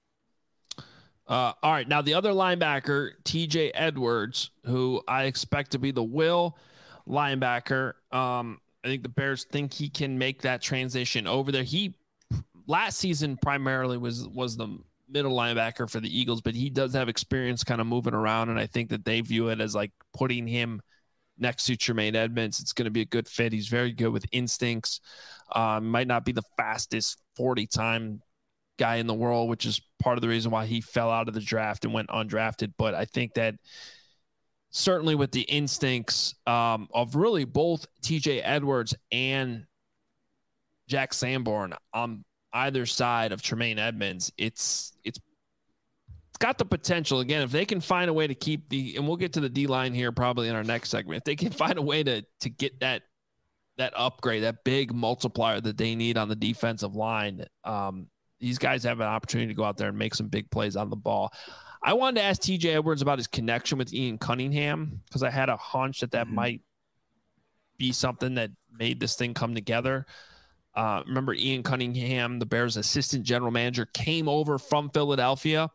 Uh, all right, now the other linebacker, T J Edwards, who I expect to be the will linebacker. Um, think the Bears think he can make that transition over there. He last season primarily was was the middle linebacker for the Eagles, but he does have experience kind of moving around, and I think that they view it as like putting him next to Tremaine Edmunds. It's going to be a good fit. He's very good with instincts. Um, might not be the fastest forty-time guy in the world, which is part of the reason why he fell out of the draft and went undrafted. But I think that certainly with the instincts um, of really both T J Edwards and Jack Sanborn on either side of Tremaine Edmunds, it's it's it's got the potential. Again, if they can find a way to keep the, and we'll get to the D line here probably in our next segment, if they can find a way to to get that that upgrade, that big multiplier that they need on the defensive line, um, these guys have an opportunity to go out there and make some big plays on the ball. I wanted to ask T J Edwards about his connection with Ian Cunningham because I had a hunch that that mm-hmm. might be something that made this thing come together. Uh, remember Ian Cunningham, the Bears assistant general manager, came over from Philadelphia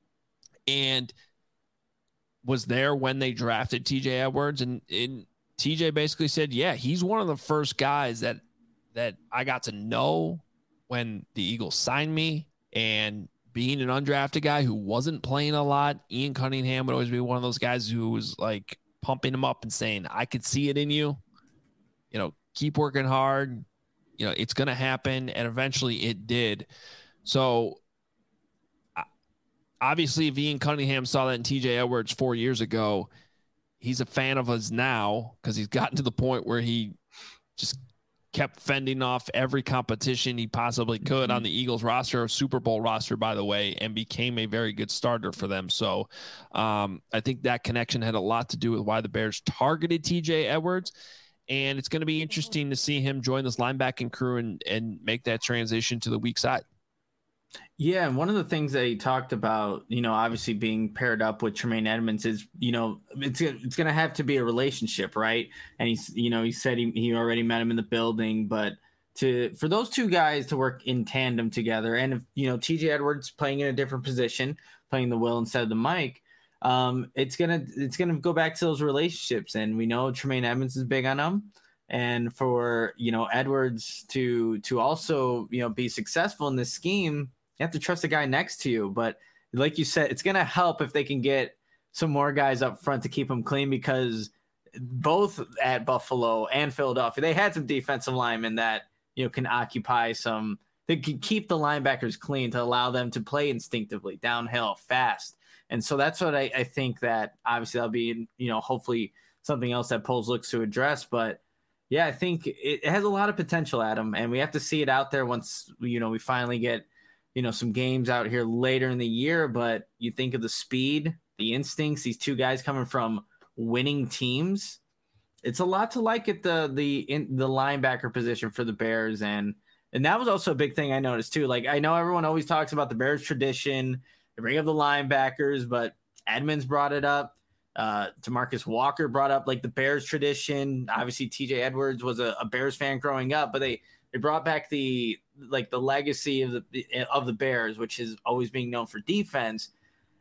and was there when they drafted T J Edwards. And, and T J basically said, yeah, he's one of the first guys that, that I got to know when the Eagles signed me. And being an undrafted guy who wasn't playing a lot, Ian Cunningham would always be one of those guys who was like pumping him up and saying, I could see it in you, you know, keep working hard. You know, it's going to happen. And eventually it did. So obviously if Ian Cunningham saw that in T J Edwards four years ago, he's a fan of us now because he's gotten to the point where he just kept fending off every competition he possibly could mm-hmm. on the Eagles roster, a Super Bowl roster, by the way, and became a very good starter for them. So um, I think that connection had a lot to do with why the Bears targeted T J Edwards. And it's going to be interesting to see him join this linebacking crew and, and make that transition to the weak side. Yeah, and one of the things that he talked about, you know, obviously being paired up with Tremaine Edmunds is, you know, it's it's going to have to be a relationship, right? And he's, you know, he said he, he already met him in the building, but to for those two guys to work in tandem together, and if, you know, T J Edwards playing in a different position, playing the Will instead of the Mike, um, it's gonna it's gonna go back to those relationships, and we know Tremaine Edmunds is big on them. And for, you know, Edwards to to also, you know, be successful in this scheme, you have to trust the guy next to you. But like you said, it's going to help if they can get some more guys up front to keep them clean, because both at Buffalo and Philadelphia, they had some defensive linemen that, you know, can occupy some, they can keep the linebackers clean to allow them to play instinctively, downhill, fast. And so that's what I, I think that obviously that'll be, you know, hopefully something else that Poles looks to address. But yeah, I think it, it has a lot of potential, Adam, and we have to see it out there once, you know, we finally get, you know, some games out here later in the year. But you think of the speed, the instincts, these two guys coming from winning teams. It's a lot to like at the the in the linebacker position for the Bears, and and that was also a big thing I noticed too. Like, I know everyone always talks about the Bears tradition, they bring up the linebackers, but Edmunds brought it up. Uh, DeMarcus Walker brought up like the Bears tradition. Obviously, T J Edwards was a, a Bears fan growing up, but they they brought back the like the legacy of the of the Bears, which is always being known for defense.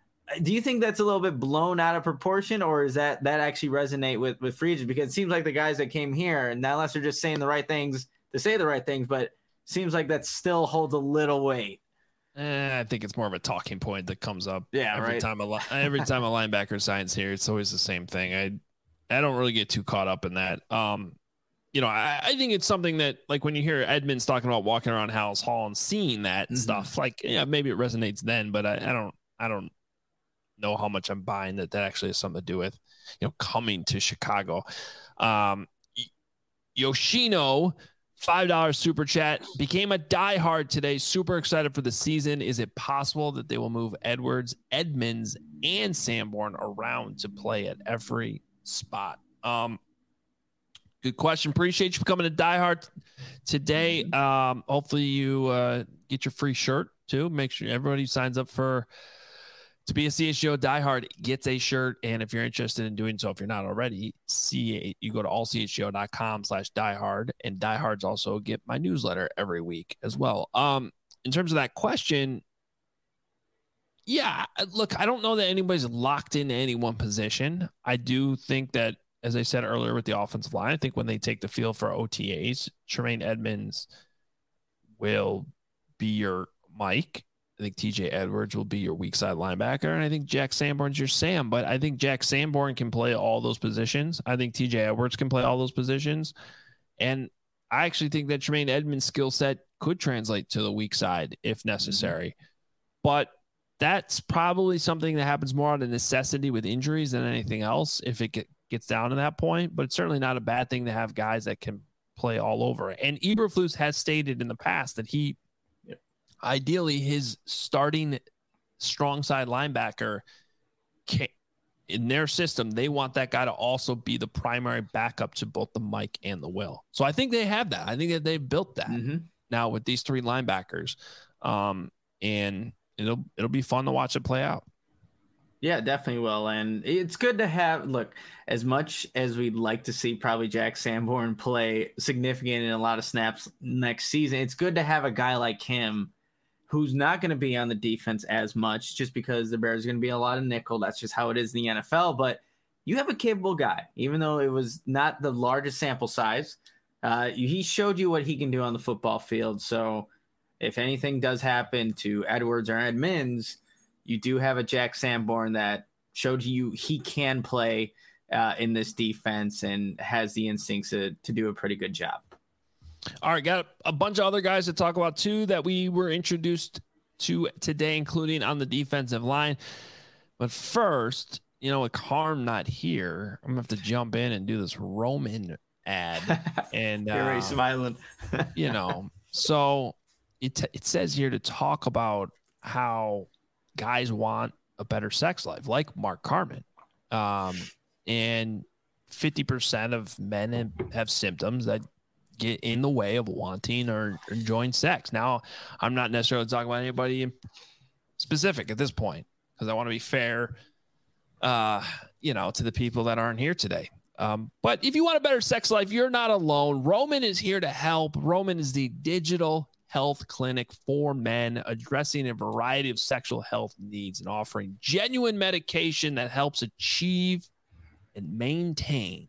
Do you think that's a little bit blown out of proportion, or is that that actually resonate with with free agents? Because it seems like the guys that came here, and unless they're just saying the right things to say the right things, but it seems like that still holds a little weight. Eh, I think it's more of a talking point that comes up yeah, every right? time a every time a linebacker signs here. It's always the same thing. I I don't really get too caught up in that. Um, you know, I, I think it's something that, like, when you hear Edmunds talking about walking around Hallis Hall and seeing that and mm-hmm. stuff, like, yeah, maybe it resonates then, but I, I don't I don't know how much I'm buying that that actually has something to do with, you know, coming to Chicago. Um, Yoshino, five dollars super chat, became a diehard today. Super excited for the season. Is it possible that they will move Edwards, Edmunds, and Sanborn around to play at every spot? Um, good question. Appreciate you for coming to diehard today. Um, hopefully you uh, get your free shirt too. Make sure everybody who signs up for to be a C H G O diehard gets a shirt. And if you're interested in doing so, if you're not already, see you go to all c h g o dot com slash diehard, and diehards also get my newsletter every week as well. Um, in terms of that question, yeah, look, I don't know that anybody's locked into any one position. I do think that as I said earlier with the offensive line, I think when they take the field for O T As, Tremaine Edmonds will be your Mike. I think T J Edwards will be your weak side linebacker, and I think Jack Sanborn's your Sam. But I think Jack Sanborn can play all those positions. I think T J Edwards can play all those positions, and I actually think that Tremaine Edmonds' skill set could translate to the weak side if necessary. Mm-hmm. But that's probably something that happens more out of necessity with injuries than anything else if it get, gets down to that point. But it's certainly not a bad thing to have guys that can play all over. And Eberflus has stated in the past that he ideally, his starting strong side linebacker, can, in their system, they want that guy to also be the primary backup to both the Mike and the Will. So I think they have that. I think that they've built that mm-hmm. now with these three linebackers. Um, and it'll it'll be fun to watch it play out. Yeah, definitely will. And it's good to have, look, as much as we'd like to see probably Jack Sanborn play significant in a lot of snaps next season, it's good to have a guy like him who's not going to be on the defense as much just because the Bears are going to be a lot of nickel. That's just how it is in the N F L. But you have a capable guy, even though it was not the largest sample size. Uh, he showed you what he can do on the football field. So if anything does happen to Edwards or Edmonds, you do have a Jack Sanborn that showed you he can play uh, in this defense and has the instincts to, to do a pretty good job. All right, got a bunch of other guys to talk about too that we were introduced to today, including on the defensive line. But first, you know, with Carm not here, I'm gonna have to jump in and do this Roman ad. And you're already uh, smiling. You know, so it t- it says here to talk about how guys want a better sex life, like Mark Carman, um, and fifty percent of men have symptoms that get in the way of wanting or enjoying sex. Now, I'm not necessarily talking about anybody in specific at this point because I want to be fair, uh, you know, to the people that aren't here today. Um, but if you want a better sex life, you're not alone. Roman is here to help. Roman is the digital health clinic for men, addressing a variety of sexual health needs and offering genuine medication that helps achieve and maintain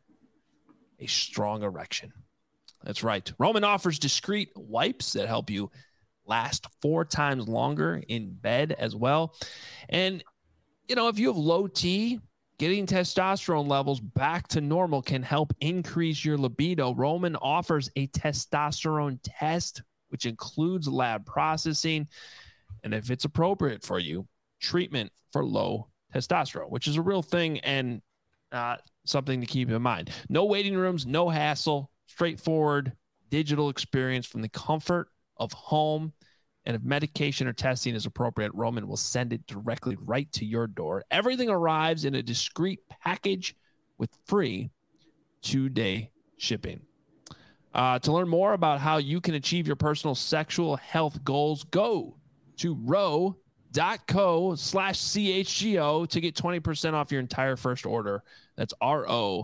a strong erection. That's right. Roman offers discreet wipes that help you last four times longer in bed as well. And, you know, if you have low T, getting testosterone levels back to normal can help increase your libido. Roman offers a testosterone test, which includes lab processing. And if it's appropriate for you, treatment for low testosterone, which is a real thing and uh, something to keep in mind. No waiting rooms, no hassle. Straightforward digital experience from the comfort of home. And if medication or testing is appropriate, Roman will send it directly right to your door. Everything arrives in a discreet package with free two-day shipping. Uh, to learn more about how you can achieve your personal sexual health goals, go to ro.co slash CHGO to get twenty percent off your entire first order. That's ro.co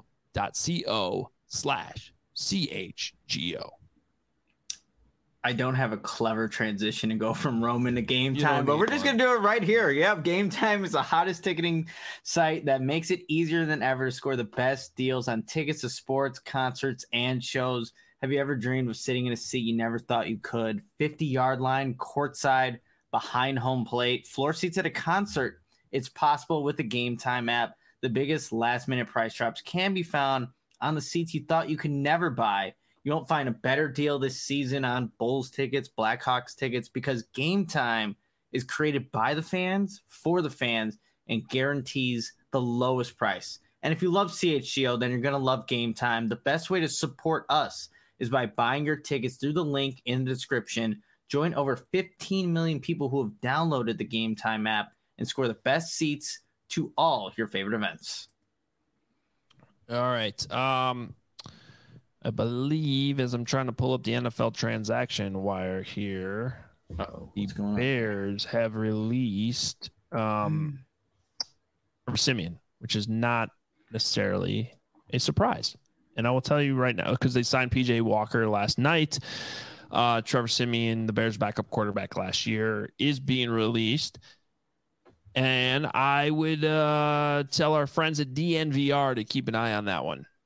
slash C H G O. I don't have a clever transition to go from Roman to Game Time, but we're just going to do it right here. Yep, Game Time is the hottest ticketing site that makes it easier than ever to score the best deals on tickets to sports, concerts, and shows. Have you ever dreamed of sitting in a seat you never thought you could? fifty-yard line, courtside, behind home plate, floor seats at a concert. It's possible with the Game Time app. The biggest last-minute price drops can be found on the seats you thought you could never buy. You won't find a better deal this season on Bulls tickets, Blackhawks tickets, because Game Time is created by the fans, for the fans, and guarantees the lowest price. And if you love C H G O, then you're going to love Game Time. The best way to support us is by buying your tickets through the link in the description. Join over fifteen million people who have downloaded the Game Time app and score the best seats to all your favorite events. All right. Um, I believe as I'm trying to pull up the N F L transaction wire here, Uh-oh, the Bears on? have released um, Trevor Siemian, which is not necessarily a surprise. And I will tell you right now, because they signed P J Walker last night. Uh, Trevor Siemian, the Bears' backup quarterback last year, is being released. And I would uh, tell our friends at D N V R to keep an eye on that one.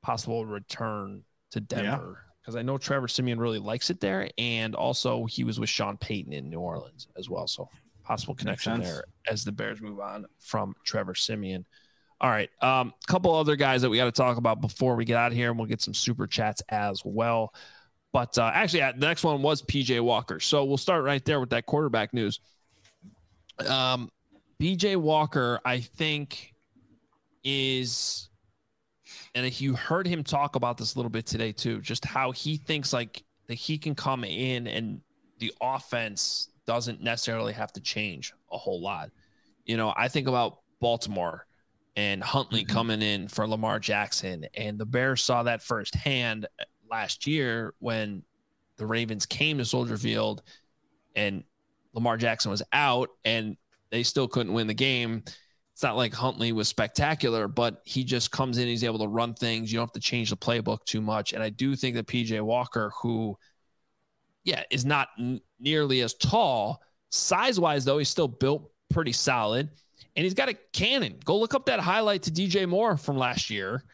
possible return to Denver. Because yeah. I know Trevor Siemian really likes it there. And also he was with Sean Payton in New Orleans as well. So possible connection there as the Bears move on from Trevor Siemian. All right. A um, couple other guys that we got to talk about before we get out of here, and we'll get some super chats as well. But uh, actually, the next one was P J Walker. So we'll start right there with that quarterback news. Um, P J Walker, I think, is, and you heard him talk about this a little bit today too, just how he thinks like that he can come in and the offense doesn't necessarily have to change a whole lot. You know, I think about Baltimore and Huntley mm-hmm. coming in for Lamar Jackson, and the Bears saw that firsthand last year when the Ravens came to Soldier Field and Lamar Jackson was out and they still couldn't win the game. It's not like Huntley was spectacular, but he just comes in, he's able to run things. You don't have to change the playbook too much. And I do think that P J Walker, who, yeah, is not n- nearly as tall, size-wise, though, he's still built pretty solid. And he's got a cannon. Go look up that highlight to D J Moore from last year,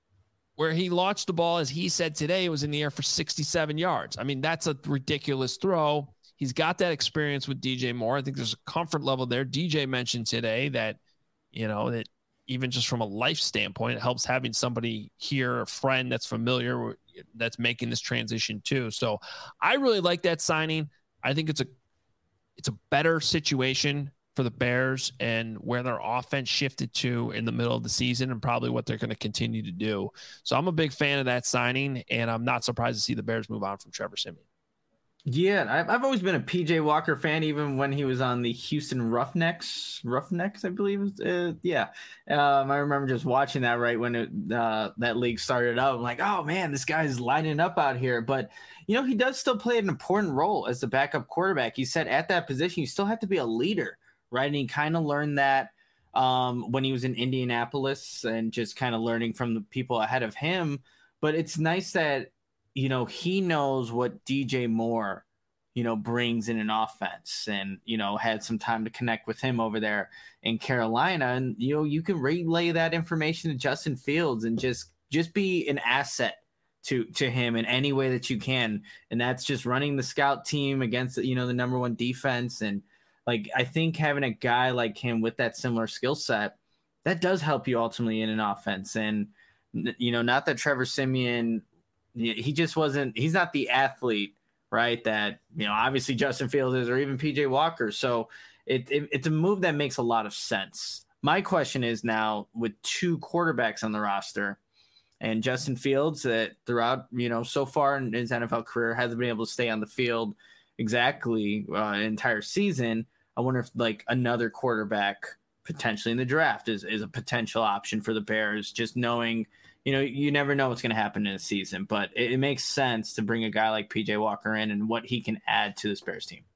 where he launched the ball, as he said today, it was in the air for sixty-seven yards. I mean, that's a ridiculous throw. He's got that experience with D J Moore. I think there's a comfort level there. D J mentioned today that, you know, that even just from a life standpoint, it helps having somebody here, a friend that's familiar, that's making this transition too. So I really like that signing. I think it's a, it's a better situation for the Bears and where their offense shifted to in the middle of the season and probably what they're going to continue to do. So I'm a big fan of that signing, and I'm not surprised to see the Bears move on from Trevor Siemian. Yeah, I've, I've always been a P J Walker fan, even when he was on the Houston Roughnecks, Roughnecks, I believe. Uh, yeah. Um, I remember just watching that right when it, uh, that league started up. I'm like, oh, man, this guy's lining up out here. But, you know, he does still play an important role as the backup quarterback. He said at that position, you still have to be a leader, right? And he kind of learned that um, when he was in Indianapolis and just kind of learning from the people ahead of him. But it's nice that, you know, he knows what D J Moore, you know, brings in an offense, and, you know, had some time to connect with him over there in Carolina. And, you know, you can relay that information to Justin Fields and just, just be an asset to, to him in any way that you can. And that's just running the scout team against, you know, the number one defense. And like, I think having a guy like him with that similar skill set, that does help you ultimately in an offense. And, you know, not that Trevor Siemian, he just wasn't, he's not the athlete, right, that, you know, obviously Justin Fields is, or even P J Walker. So it, it it's a move that makes a lot of sense. My question is now, with two quarterbacks on the roster and Justin Fields that throughout, you know, so far in his N F L career hasn't been able to stay on the field exactly uh, an entire season. I wonder if like another quarterback potentially in the draft is, is a potential option for the Bears, just knowing, you know, you never know what's going to happen in a season, but it, it makes sense to bring a guy like P J Walker in and what he can add to this Bears team.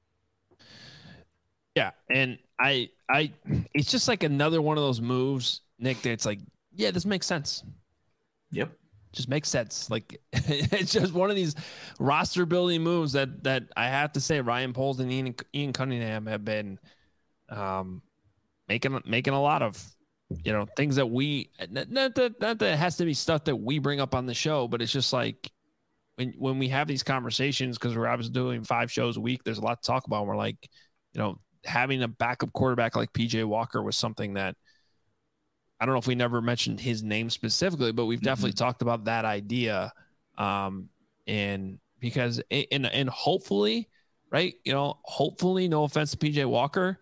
Yeah. And I, I, it's just like another one of those moves, Nick, that it's like, yeah, this makes sense. Yep. Just makes sense. Like, it's just one of these roster building moves that, that I have to say Ryan Poles and Ian, Ian Cunningham have been um, making, making a lot of, you know, things that we, not that, not that it has to be stuff that we bring up on the show, but it's just like when, when we have these conversations, because we're obviously doing five shows a week, there's a lot to talk about. And we're like, you know, having a backup quarterback like P J Walker was something that, I don't know if we never mentioned his name specifically, but we've definitely mm-hmm. talked about that idea. Um, and because, and, and hopefully, right, you know, hopefully, no offense to P J Walker,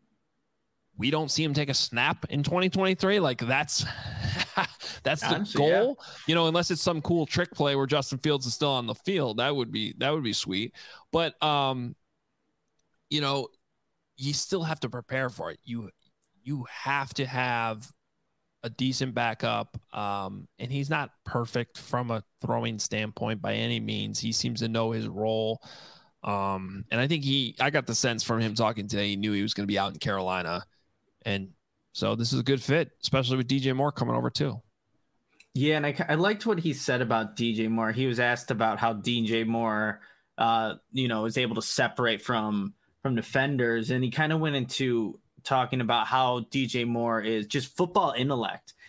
we don't see him take a snap in twenty twenty-three. Like that's, that's the Honestly, goal, yeah. you know, unless it's some cool trick play where Justin Fields is still on the field. That would be, that would be sweet. But, um, you know, you still have to prepare for it. You, you have to have a decent backup. Um, and he's not perfect from a throwing standpoint by any means. He seems to know his role. Um, and I think he, I got the sense from him talking today, he knew he was going to be out in Carolina. And so this is a good fit, especially with D J Moore coming over too. Yeah. And I, I liked what he said about D J Moore. He was asked about how D J Moore, uh, you know, is able to separate from, from defenders. And he kind of went into talking about how D J Moore is just football intellect.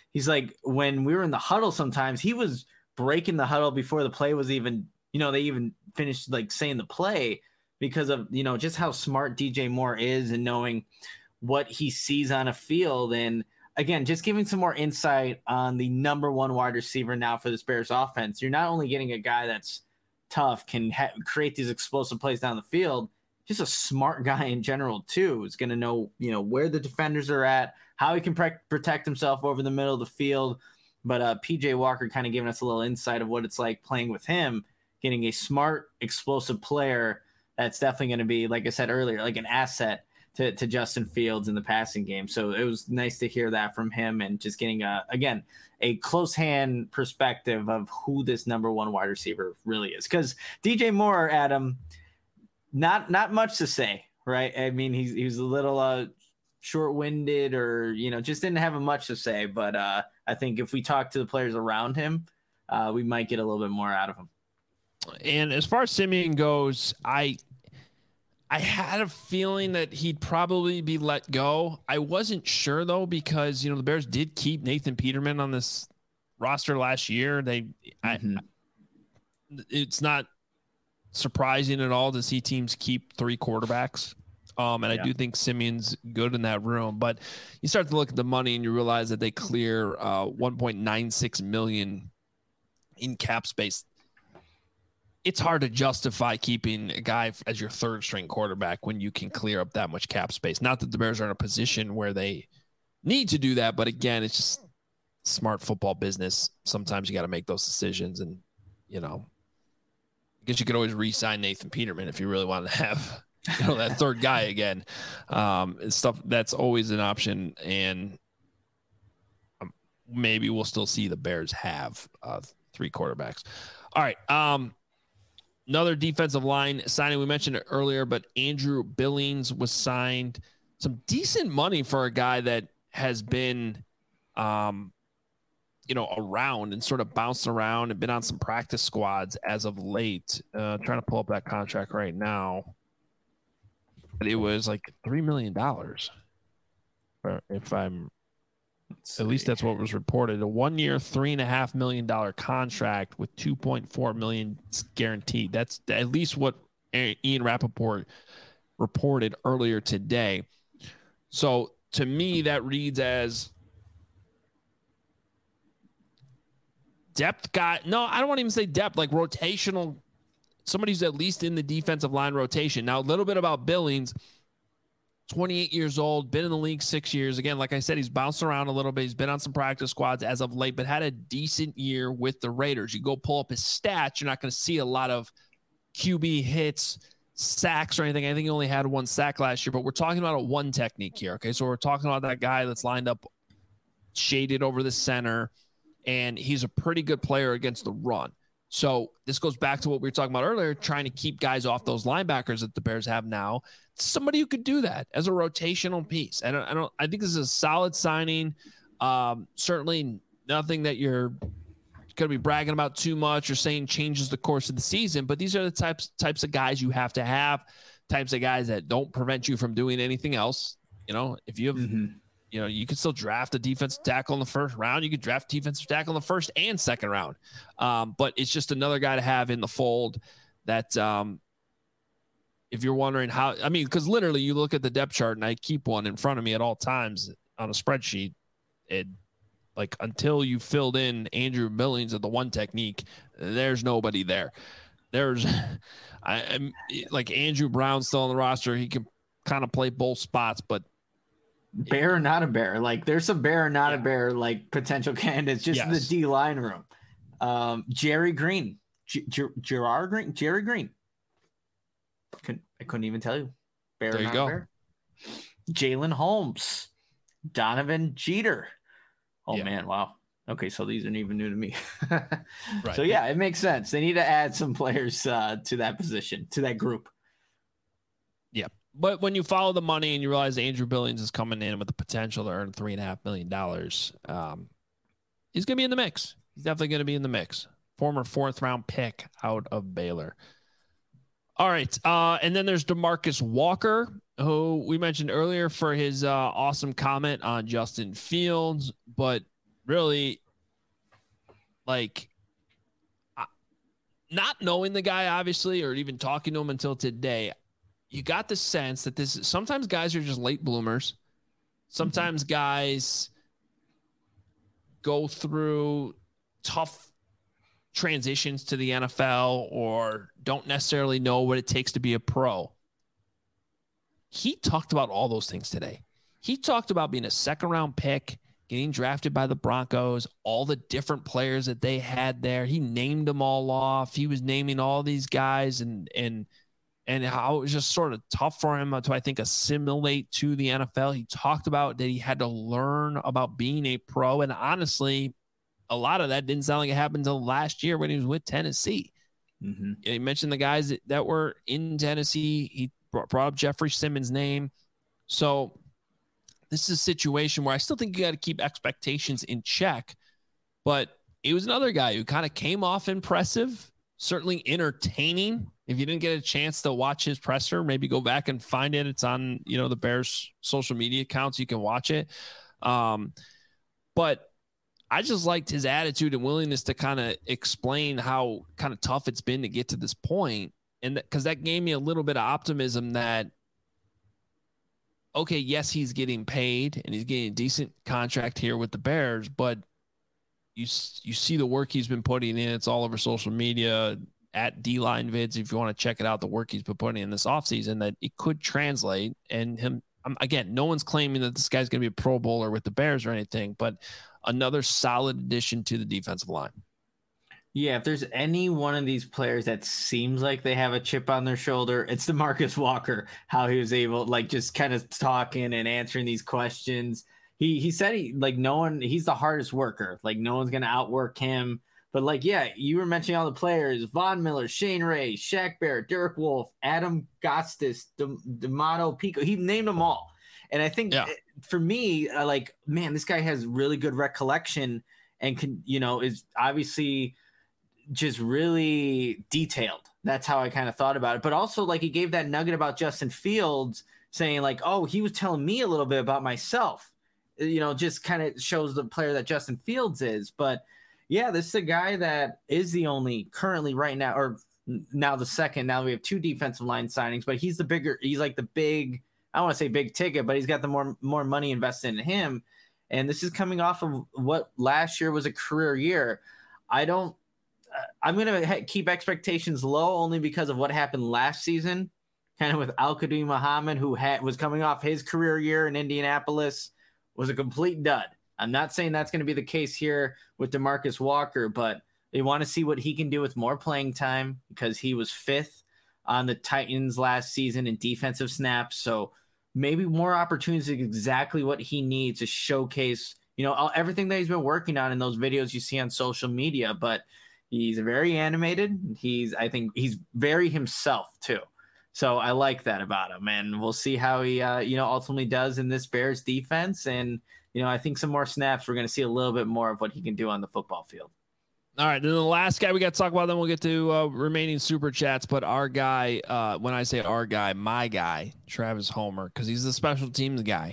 he's like, when we were in the huddle, sometimes he was breaking the huddle before the play was even, you know, they even finished like saying the play because of, you know, just how smart D J Moore is and knowing what he sees on a field. And again, just giving some more insight on the number one wide receiver now for this Bears offense. You're not only getting a guy that's tough, can ha- create these explosive plays down the field, just a smart guy in general too. Is going to know, you know, where the defenders are at, how he can pre- protect himself over the middle of the field. But uh, P J Walker kind of giving us a little insight of what it's like playing with him, getting a smart, explosive player that's definitely going to be, like I said earlier, like an asset to, to Justin Fields in the passing game. So it was nice to hear that from him and just getting, a, again, a close hand perspective of who this number one wide receiver really is. Because D J Moore, Adam, not not much to say, right? I mean, he's he was a little uh, short-winded or, you know, just didn't have much to say. But uh, I think if we talk to the players around him, uh, we might get a little bit more out of him. And as far as Siemian goes, I I had a feeling that he'd probably be let go. I wasn't sure, though, because, you know, the Bears did keep Nathan Peterman on this roster last year. They, mm-hmm. I, it's not surprising at all to see teams keep three quarterbacks. Um, and yeah. I do think Siemian's good in that room. But you start to look at the money and you realize that they clear uh, one point nine six million dollars in cap space. It's hard to justify keeping a guy as your third string quarterback when you can clear up that much cap space. Not that the Bears are in a position where they need to do that, but again, it's just smart football business. Sometimes you got to make those decisions, and, you know, I guess you could always re-sign Nathan Peterman if you really wanted to have, you know, that third guy again. Um, and stuff that's always an option, and um, maybe we'll still see the Bears have uh, three quarterbacks. All right. Um, Another defensive line signing, we mentioned it earlier, but Andrew Billings was signed. Some decent money for a guy that has been, um, you know, around and sort of bounced around and been on some practice squads as of late. Uh, trying to pull up that contract right now. But it was like three million dollars, if I'm At least that's what was reported. A one-year, three and a half million dollar contract with two point four million guaranteed. That's at least what Ian Rappaport reported earlier today. So to me, that reads as depth guy. No, I don't want to even say depth, like rotational. Somebody who's at least in the defensive line rotation. Now, a little bit about Billings. twenty-eight years old, been in the league six years. Again, like I said, he's bounced around a little bit. He's been on some practice squads as of late, but had a decent year with the Raiders. You go pull up his stats, you're not going to see a lot of Q B hits, sacks, or anything. I think he only had one sack last year, but we're talking about a one technique here. Okay, so we're talking about that guy that's lined up shaded over the center, and he's a pretty good player against the run. So this goes back to what we were talking about earlier, trying to keep guys off those linebackers that the Bears have now. Somebody who could do that as a rotational piece. I don't, I don't, I think this is a solid signing. Um, certainly nothing that you're going to be bragging about too much or saying changes the course of the season, but these are the types, types of guys you have to have, types of guys that don't prevent you from doing anything else. You know, if you have, mm-hmm. you know, you could still draft a defensive tackle in the first round. You could draft defensive tackle in the first and second round. Um, but it's just another guy to have in the fold that, um, if you're wondering how, I mean, because literally you look at the depth chart, and I keep one in front of me at all times on a spreadsheet. It like until you filled in Andrew Billings at the one technique, there's nobody there. There's, I, I'm like Andrew Brown still on the roster. He can kind of play both spots, but bear or not a bear, like there's some bear or not yeah. a bear, like potential candidates just yes. in the D line room. Um, Jerry Green, G- G- Gerard Green, Jerry Green. Couldn't, I couldn't even tell you. Bear there you go. Jalen Holmes, Donovan Jeter. Oh, yeah. man. Wow. Okay. So these aren't even new to me. right. So, yeah, it makes sense. They need to add some players uh, to that position, to that group. Yeah. But when you follow the money and you realize Andrew Billings is coming in with the potential to earn three and a half million dollars, um, he's going to be in the mix. He's definitely going to be in the mix. Former fourth round pick out of Baylor. All right, uh, and then there's DeMarcus Walker, who we mentioned earlier for his uh, awesome comment on Justin Fields, but really, like, not knowing the guy, obviously, or even talking to him until today, you got the sense that this sometimes guys are just late bloomers. Sometimes mm-hmm. guys go through tough transitions to the N F L or don't necessarily know what it takes to be a pro. He talked about all those things today. He talked about being a second round pick, getting drafted by the Broncos, all the different players that they had there. He named them all off. He was naming all these guys and, and, and how it was just sort of tough for him to, I think, assimilate to the N F L. He talked about that he had to learn about being a pro. And honestly, a lot of that didn't sound like it happened until last year when he was with Tennessee. Mm-hmm. He mentioned the guys that, that were in Tennessee. He brought, brought up Jeffrey Simmons' name. So this is a situation where I still think you got to keep expectations in check. But it was another guy who kind of came off impressive, certainly entertaining. If you didn't get a chance to watch his presser, maybe go back and find it. It's on, you know, the Bears social media accounts. You can watch it. Um, but I just liked his attitude and willingness to kind of explain how kind of tough it's been to get to this point. And that, cause that gave me a little bit of optimism that, okay, yes, he's getting paid and he's getting a decent contract here with the Bears, but you, you see the work he's been putting in. It's all over social media at D-Line Vids. If you want to check it out, the work he's been putting in this offseason, that it could translate. And him, um, again, no one's claiming that this guy's going to be a Pro Bowler with the Bears or anything, but another solid addition to the defensive line. Yeah, if there's any one of these players that seems like they have a chip on their shoulder, it's DeMarcus Walker, how he was able, like, just kind of talking and answering these questions. He he said he, like, no one, he's the hardest worker. Like, no one's going to outwork him. But, like, yeah, you were mentioning all the players, Von Miller, Shane Ray, Shaq Barrett, Derek Wolfe, Adam Gotsis, D'Amato Pico. He named them all. And I think yeah. for me, uh, like, man, this guy has really good recollection and can, you know, is obviously just really detailed. That's how I kind of thought about it. But also, like, he gave that nugget about Justin Fields saying, like, oh, he was telling me a little bit about myself, you know, just kind of shows the player that Justin Fields is. But yeah, this is a guy that is the only currently right now, or now the second, now we have two defensive line signings, but he's the bigger, he's like the big, I don't want to say big ticket, but he's got the more, more money invested in him. And this is coming off of what last year was a career year. I don't, I'm going to keep expectations low only because of what happened last season, kind of with Al-Qadim Muhammad, who had, was coming off his career year in Indianapolis, was a complete dud. I'm not saying that's going to be the case here with DeMarcus Walker, but they want to see what he can do with more playing time because he was fifth on the Titans last season in defensive snaps. So maybe more opportunities is exactly what he needs to showcase, you know, all, everything that he's been working on in those videos you see on social media. But he's very animated. He's, I think he's very himself too. So I like that about him, and we'll see how he, uh, you know, ultimately does in this Bears defense. And, you know, I think some more snaps, we're going to see a little bit more of what he can do on the football field. All right. Then the last guy we got to talk about, then we'll get to uh, remaining super chats. But our guy, uh, when I say our guy, my guy, Travis Homer, because he's the special teams guy.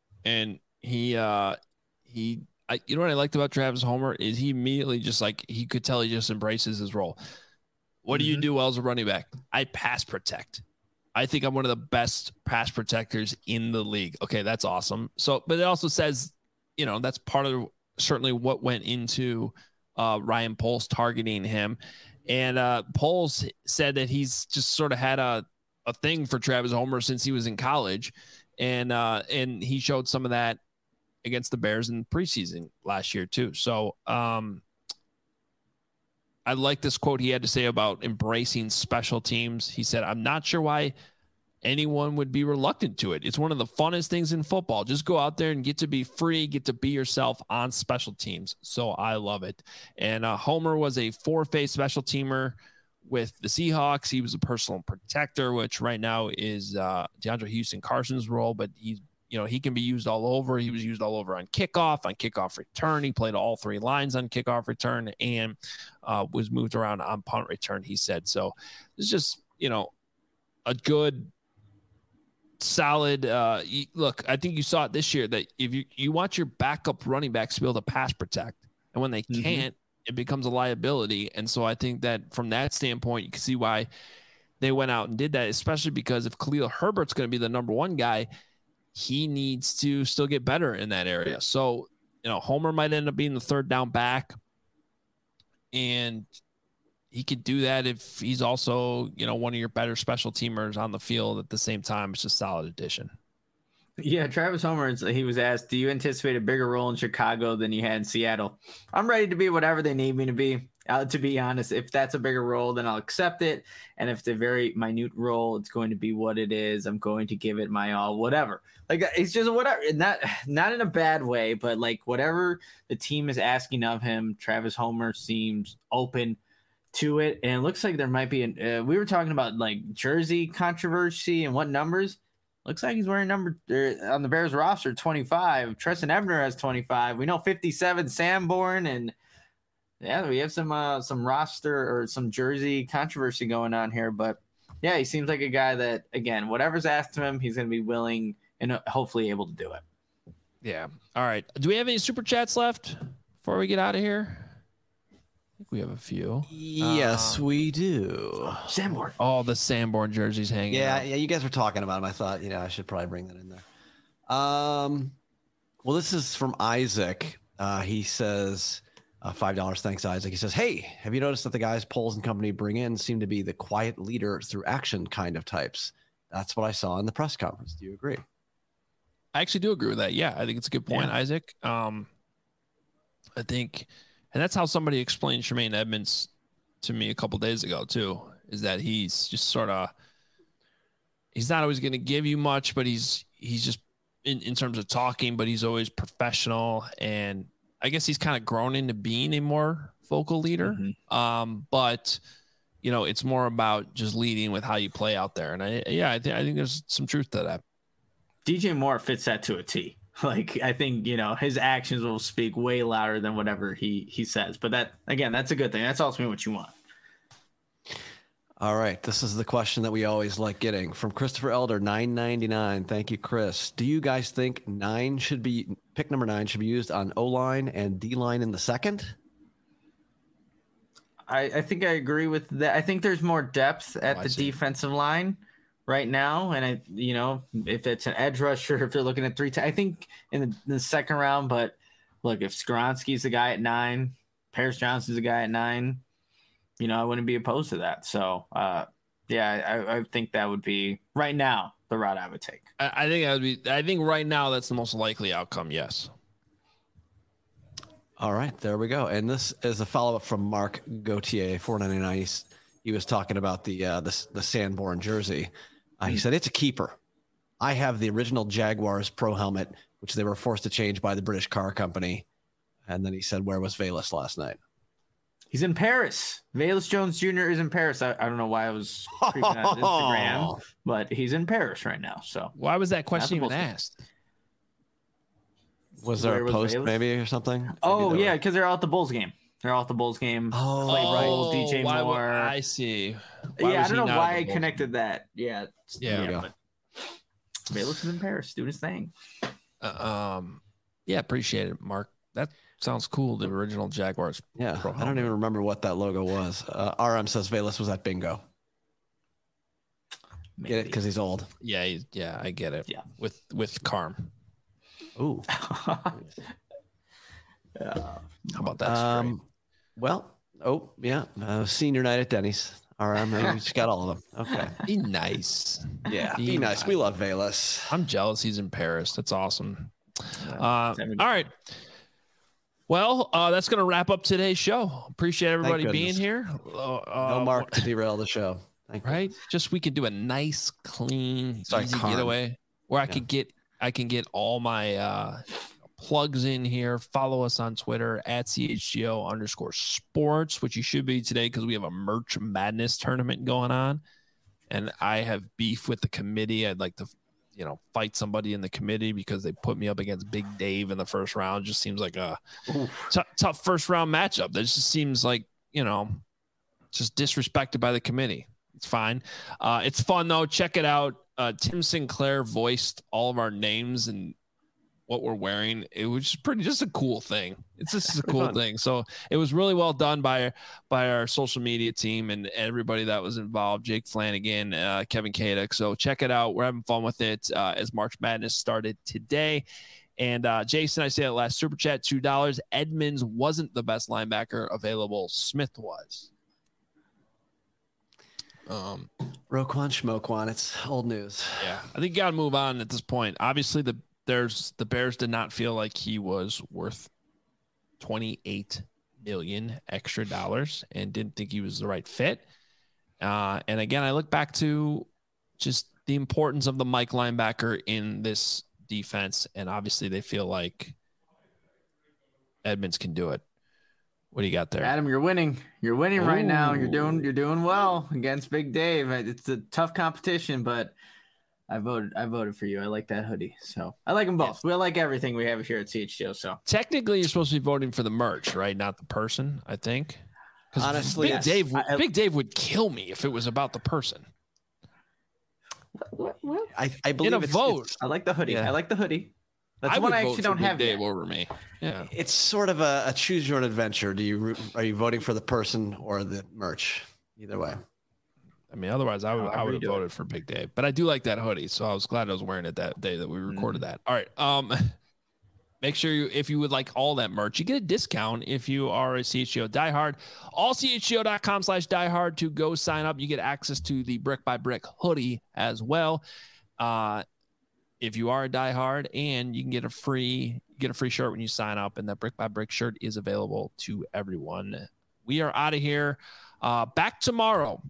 And he, uh, he, I, you know what I liked about Travis Homer is he immediately just like, he could tell he just embraces his role. What do mm-hmm. you do well as a running back? I pass protect. I think I'm one of the best pass protectors in the league. Okay, that's awesome. So, but it also says, you know, that's part of certainly what went into uh, Ryan Poles targeting him. And uh, Poles said that he's just sort of had a, a thing for Travis Homer since he was in college. And, uh, and he showed some of that against the Bears in preseason last year too. So um, I like this quote he had to say about embracing special teams. He said, I'm not sure why anyone would be reluctant to it. It's one of the funnest things in football. Just go out there and get to be free, get to be yourself on special teams. So I love it. And uh, Homer was a four-phase special teamer with the Seahawks. He was a personal protector, which right now is uh, DeAndre Houston Carson's role, but he's, you know, he can be used all over. He was used all over on kickoff, on kickoff return. He played all three lines on kickoff return and uh, was moved around on punt return, he said. So it's just, you know, a good solid. Uh, you, look, I think you saw it this year that if you, you want your backup running backs to be able to pass protect, and when they mm-hmm. can't, it becomes a liability. And so I think that from that standpoint, you can see why they went out and did that, especially because if Khalil Herbert's going to be the number one guy, he needs to still get better in that area. So, you know, Homer might end up being the third down back, and he could do that if he's also, you know, one of your better special teamers on the field at the same time. It's just a solid addition. Yeah, Travis Homer, he was asked, do you anticipate a bigger role in Chicago than you had in Seattle? I'm ready to be whatever they need me to be. Uh, to be honest, if that's a bigger role, then I'll accept it. And if it's a very minute role, it's going to be what it is. I'm going to give it my all, whatever. Like, it's just whatever. Not, not in a bad way, but like whatever the team is asking of him, Travis Homer seems open to it. And it looks like there might be, an, uh, we were talking about like jersey controversy and what numbers. Looks like he's wearing number uh, on the Bears roster, twenty-five. Treston Ebner has twenty-five. We know fifty-seven, Sanborn, and yeah, we have some uh, some roster or some jersey controversy going on here. But yeah, he seems like a guy that, again, whatever's asked of him, he's going to be willing and hopefully able to do it. Yeah. All right. Do we have any super chats left before we get out of here? I think we have a few. Yes, um, we do. Sanborn. All the Sanborn jerseys hanging Yeah, out. yeah, you guys were talking about them. I thought, you know, I should probably bring that in there. Um, well, this is from Isaac. Uh, he says, uh, five dollars. Thanks, Isaac. He says, hey, have you noticed that the guys Poles and company bring in seem to be the quiet leader through action kind of types? That's what I saw in the press conference. Do you agree? I actually do agree with that. Yeah, I think it's a good point, yeah. Isaac. Um, I think... And that's how somebody explained Tremaine Edmonds to me a couple days ago, too, is that he's just sort of – he's not always going to give you much, but he's he's just in, in terms of talking, but he's always professional. And I guess he's kind of grown into being a more vocal leader. Mm-hmm. Um, but, you know, it's more about just leading with how you play out there. And, I yeah, I, th- I think there's some truth to that. D J Moore fits that to a T. Like, I think, you know, his actions will speak way louder than whatever he, he says. But that, again, that's a good thing. That's ultimately what you want. All right. This is the question that we always like getting from Christopher Elder, nine ninety-nine. Thank you, Chris. Do you guys think nine should be, pick number nine should be used on O-line and D-line in the second? I, I think I agree with that. I think there's more depth at oh, the defensive line right now, and I, you know, if it's an edge rusher, if they're looking at three, t- I think in the, in the second round. But look, if Skoronski's the guy at nine, Paris Johnson's the guy at nine, you know, I wouldn't be opposed to that. So, uh, yeah, I, I think that would be right now the route I would take. I, I think that would be. I think right now that's the most likely outcome. Yes. All right, there we go. And this is a follow up from Mark Gauthier, four ninety-nine. He was talking about the uh, the, the Sanborn jersey. Uh, he said, it's a keeper. I have the original Jaguars Pro helmet, which they were forced to change by the British car company. And then he said, where was Velus last night? He's in Paris. Velus Jones Junior is in Paris. I, I don't know why I was creeping on Instagram, but he's in Paris right now. So why was that question even asked? Was there a post maybe or something? Oh, yeah, because they're out the Bulls game. They're out the Bulls game. Oh, right. D J why, Moore. I see. Why yeah, I don't know why I connected that. Yeah. Yeah. yeah but Velus is in Paris doing his thing. Uh, um, yeah, appreciate it, Mark. That sounds cool. The original Jaguars. Yeah. Pro I don't even remember what that logo was. Uh, R M says Velus was at bingo. Maybe. Get it? Because he's old. Yeah. He's, yeah, I get it. Yeah. With, with Carm. Ooh. yeah. How about that? Um, well, oh, yeah. Uh, senior night at Denny's. All right, man. We just got all of them. Okay. Be nice. Yeah. Be, be nice. nice. We love Velus. I'm jealous he's in Paris. That's awesome. Uh, all right. Well, uh, that's going to wrap up today's show. Appreciate everybody being here. Uh, no Mark to derail the show. Thank right? You. Just we could do a nice, clean, Sorry, easy Carm. getaway where I yeah. could get I can get all my uh, plugs in here. Follow us on Twitter at C H G O underscore sports, which you should be today because we have a Merch Madness tournament going on. And I have beef with the committee. I'd like to, you know, fight somebody in the committee because they put me up against Big Dave in the first round. Just seems like a t- tough first round matchup. That just seems like, you know, just disrespected by the committee. It's fine. Uh, it's fun though. Check it out. Uh, Tim Sinclair voiced all of our names and what we're wearing. It was just pretty, just a cool thing. It's just a cool fun. thing. So it was really well done by by our social media team and everybody that was involved. Jake Flanagan, uh, Kevin Kadek. So check it out. We're having fun with it uh, as March Madness started today. And uh, Jason, I say that last super chat, two dollars. Edmonds wasn't the best linebacker available. Smith was. Um, Roquan Schmoquan. It's old news. yeah, I think you got to move on at this point. Obviously, the there's the Bears did not feel like he was worth twenty-eight million extra dollars and didn't think he was the right fit. Uh, and again, I look back to just the importance of the Mike linebacker in this defense, and obviously they feel like Edmonds can do it. What do you got there? Adam, you're winning. You're winning right now. You're doing Ooh. you're doing well against Big Dave. It's a tough competition, but I voted I voted for you. I like that hoodie. So I like them both. We like everything we have here at C H G O. So Technically, you're supposed to be voting for the merch, right? Not the person, I think. 'Cause Honestly, Big yes. Dave, I- Big Dave would kill me if it was about the person. what, what? I, I believe a it's, vote. It's, I like the hoodie. Yeah. I like the hoodie. That's I one would I vote actually for don't Big have Dave yet. over me. Yeah. it's sort of a, a choose your own adventure. Do you root- are you voting for the person or the merch? Either way. I mean, otherwise, I would However I would you have do it. voted for Big Dave. But I do like that hoodie, so I was glad I was wearing it that day that we recorded that. All right. Um, make sure you, if you would like all that merch, you get a discount if you are a C H G O diehard. All C H G O dot com slash diehard to go sign up. You get access to the Brick by Brick hoodie as well. Uh, if you are a diehard, and you can get a free get a free shirt when you sign up, and that Brick by Brick shirt is available to everyone. We are out of here. Uh, back tomorrow.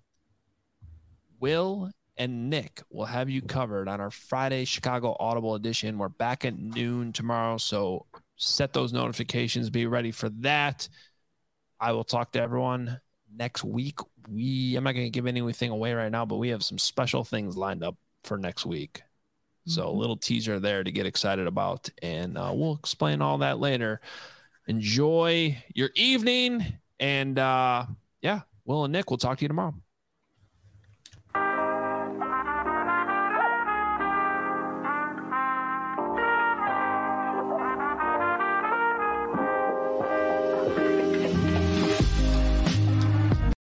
Will and Nick will have you covered on our Friday Chicago Audible edition. We're back at noon tomorrow, so set those notifications. Be ready for that. I will talk to everyone next week. We I'm not going to give anything away right now, but we have some special things lined up for next week. So a little teaser there to get excited about, and uh, we'll explain all that later. Enjoy your evening, and uh, yeah, Will and Nick, we'll talk to you tomorrow.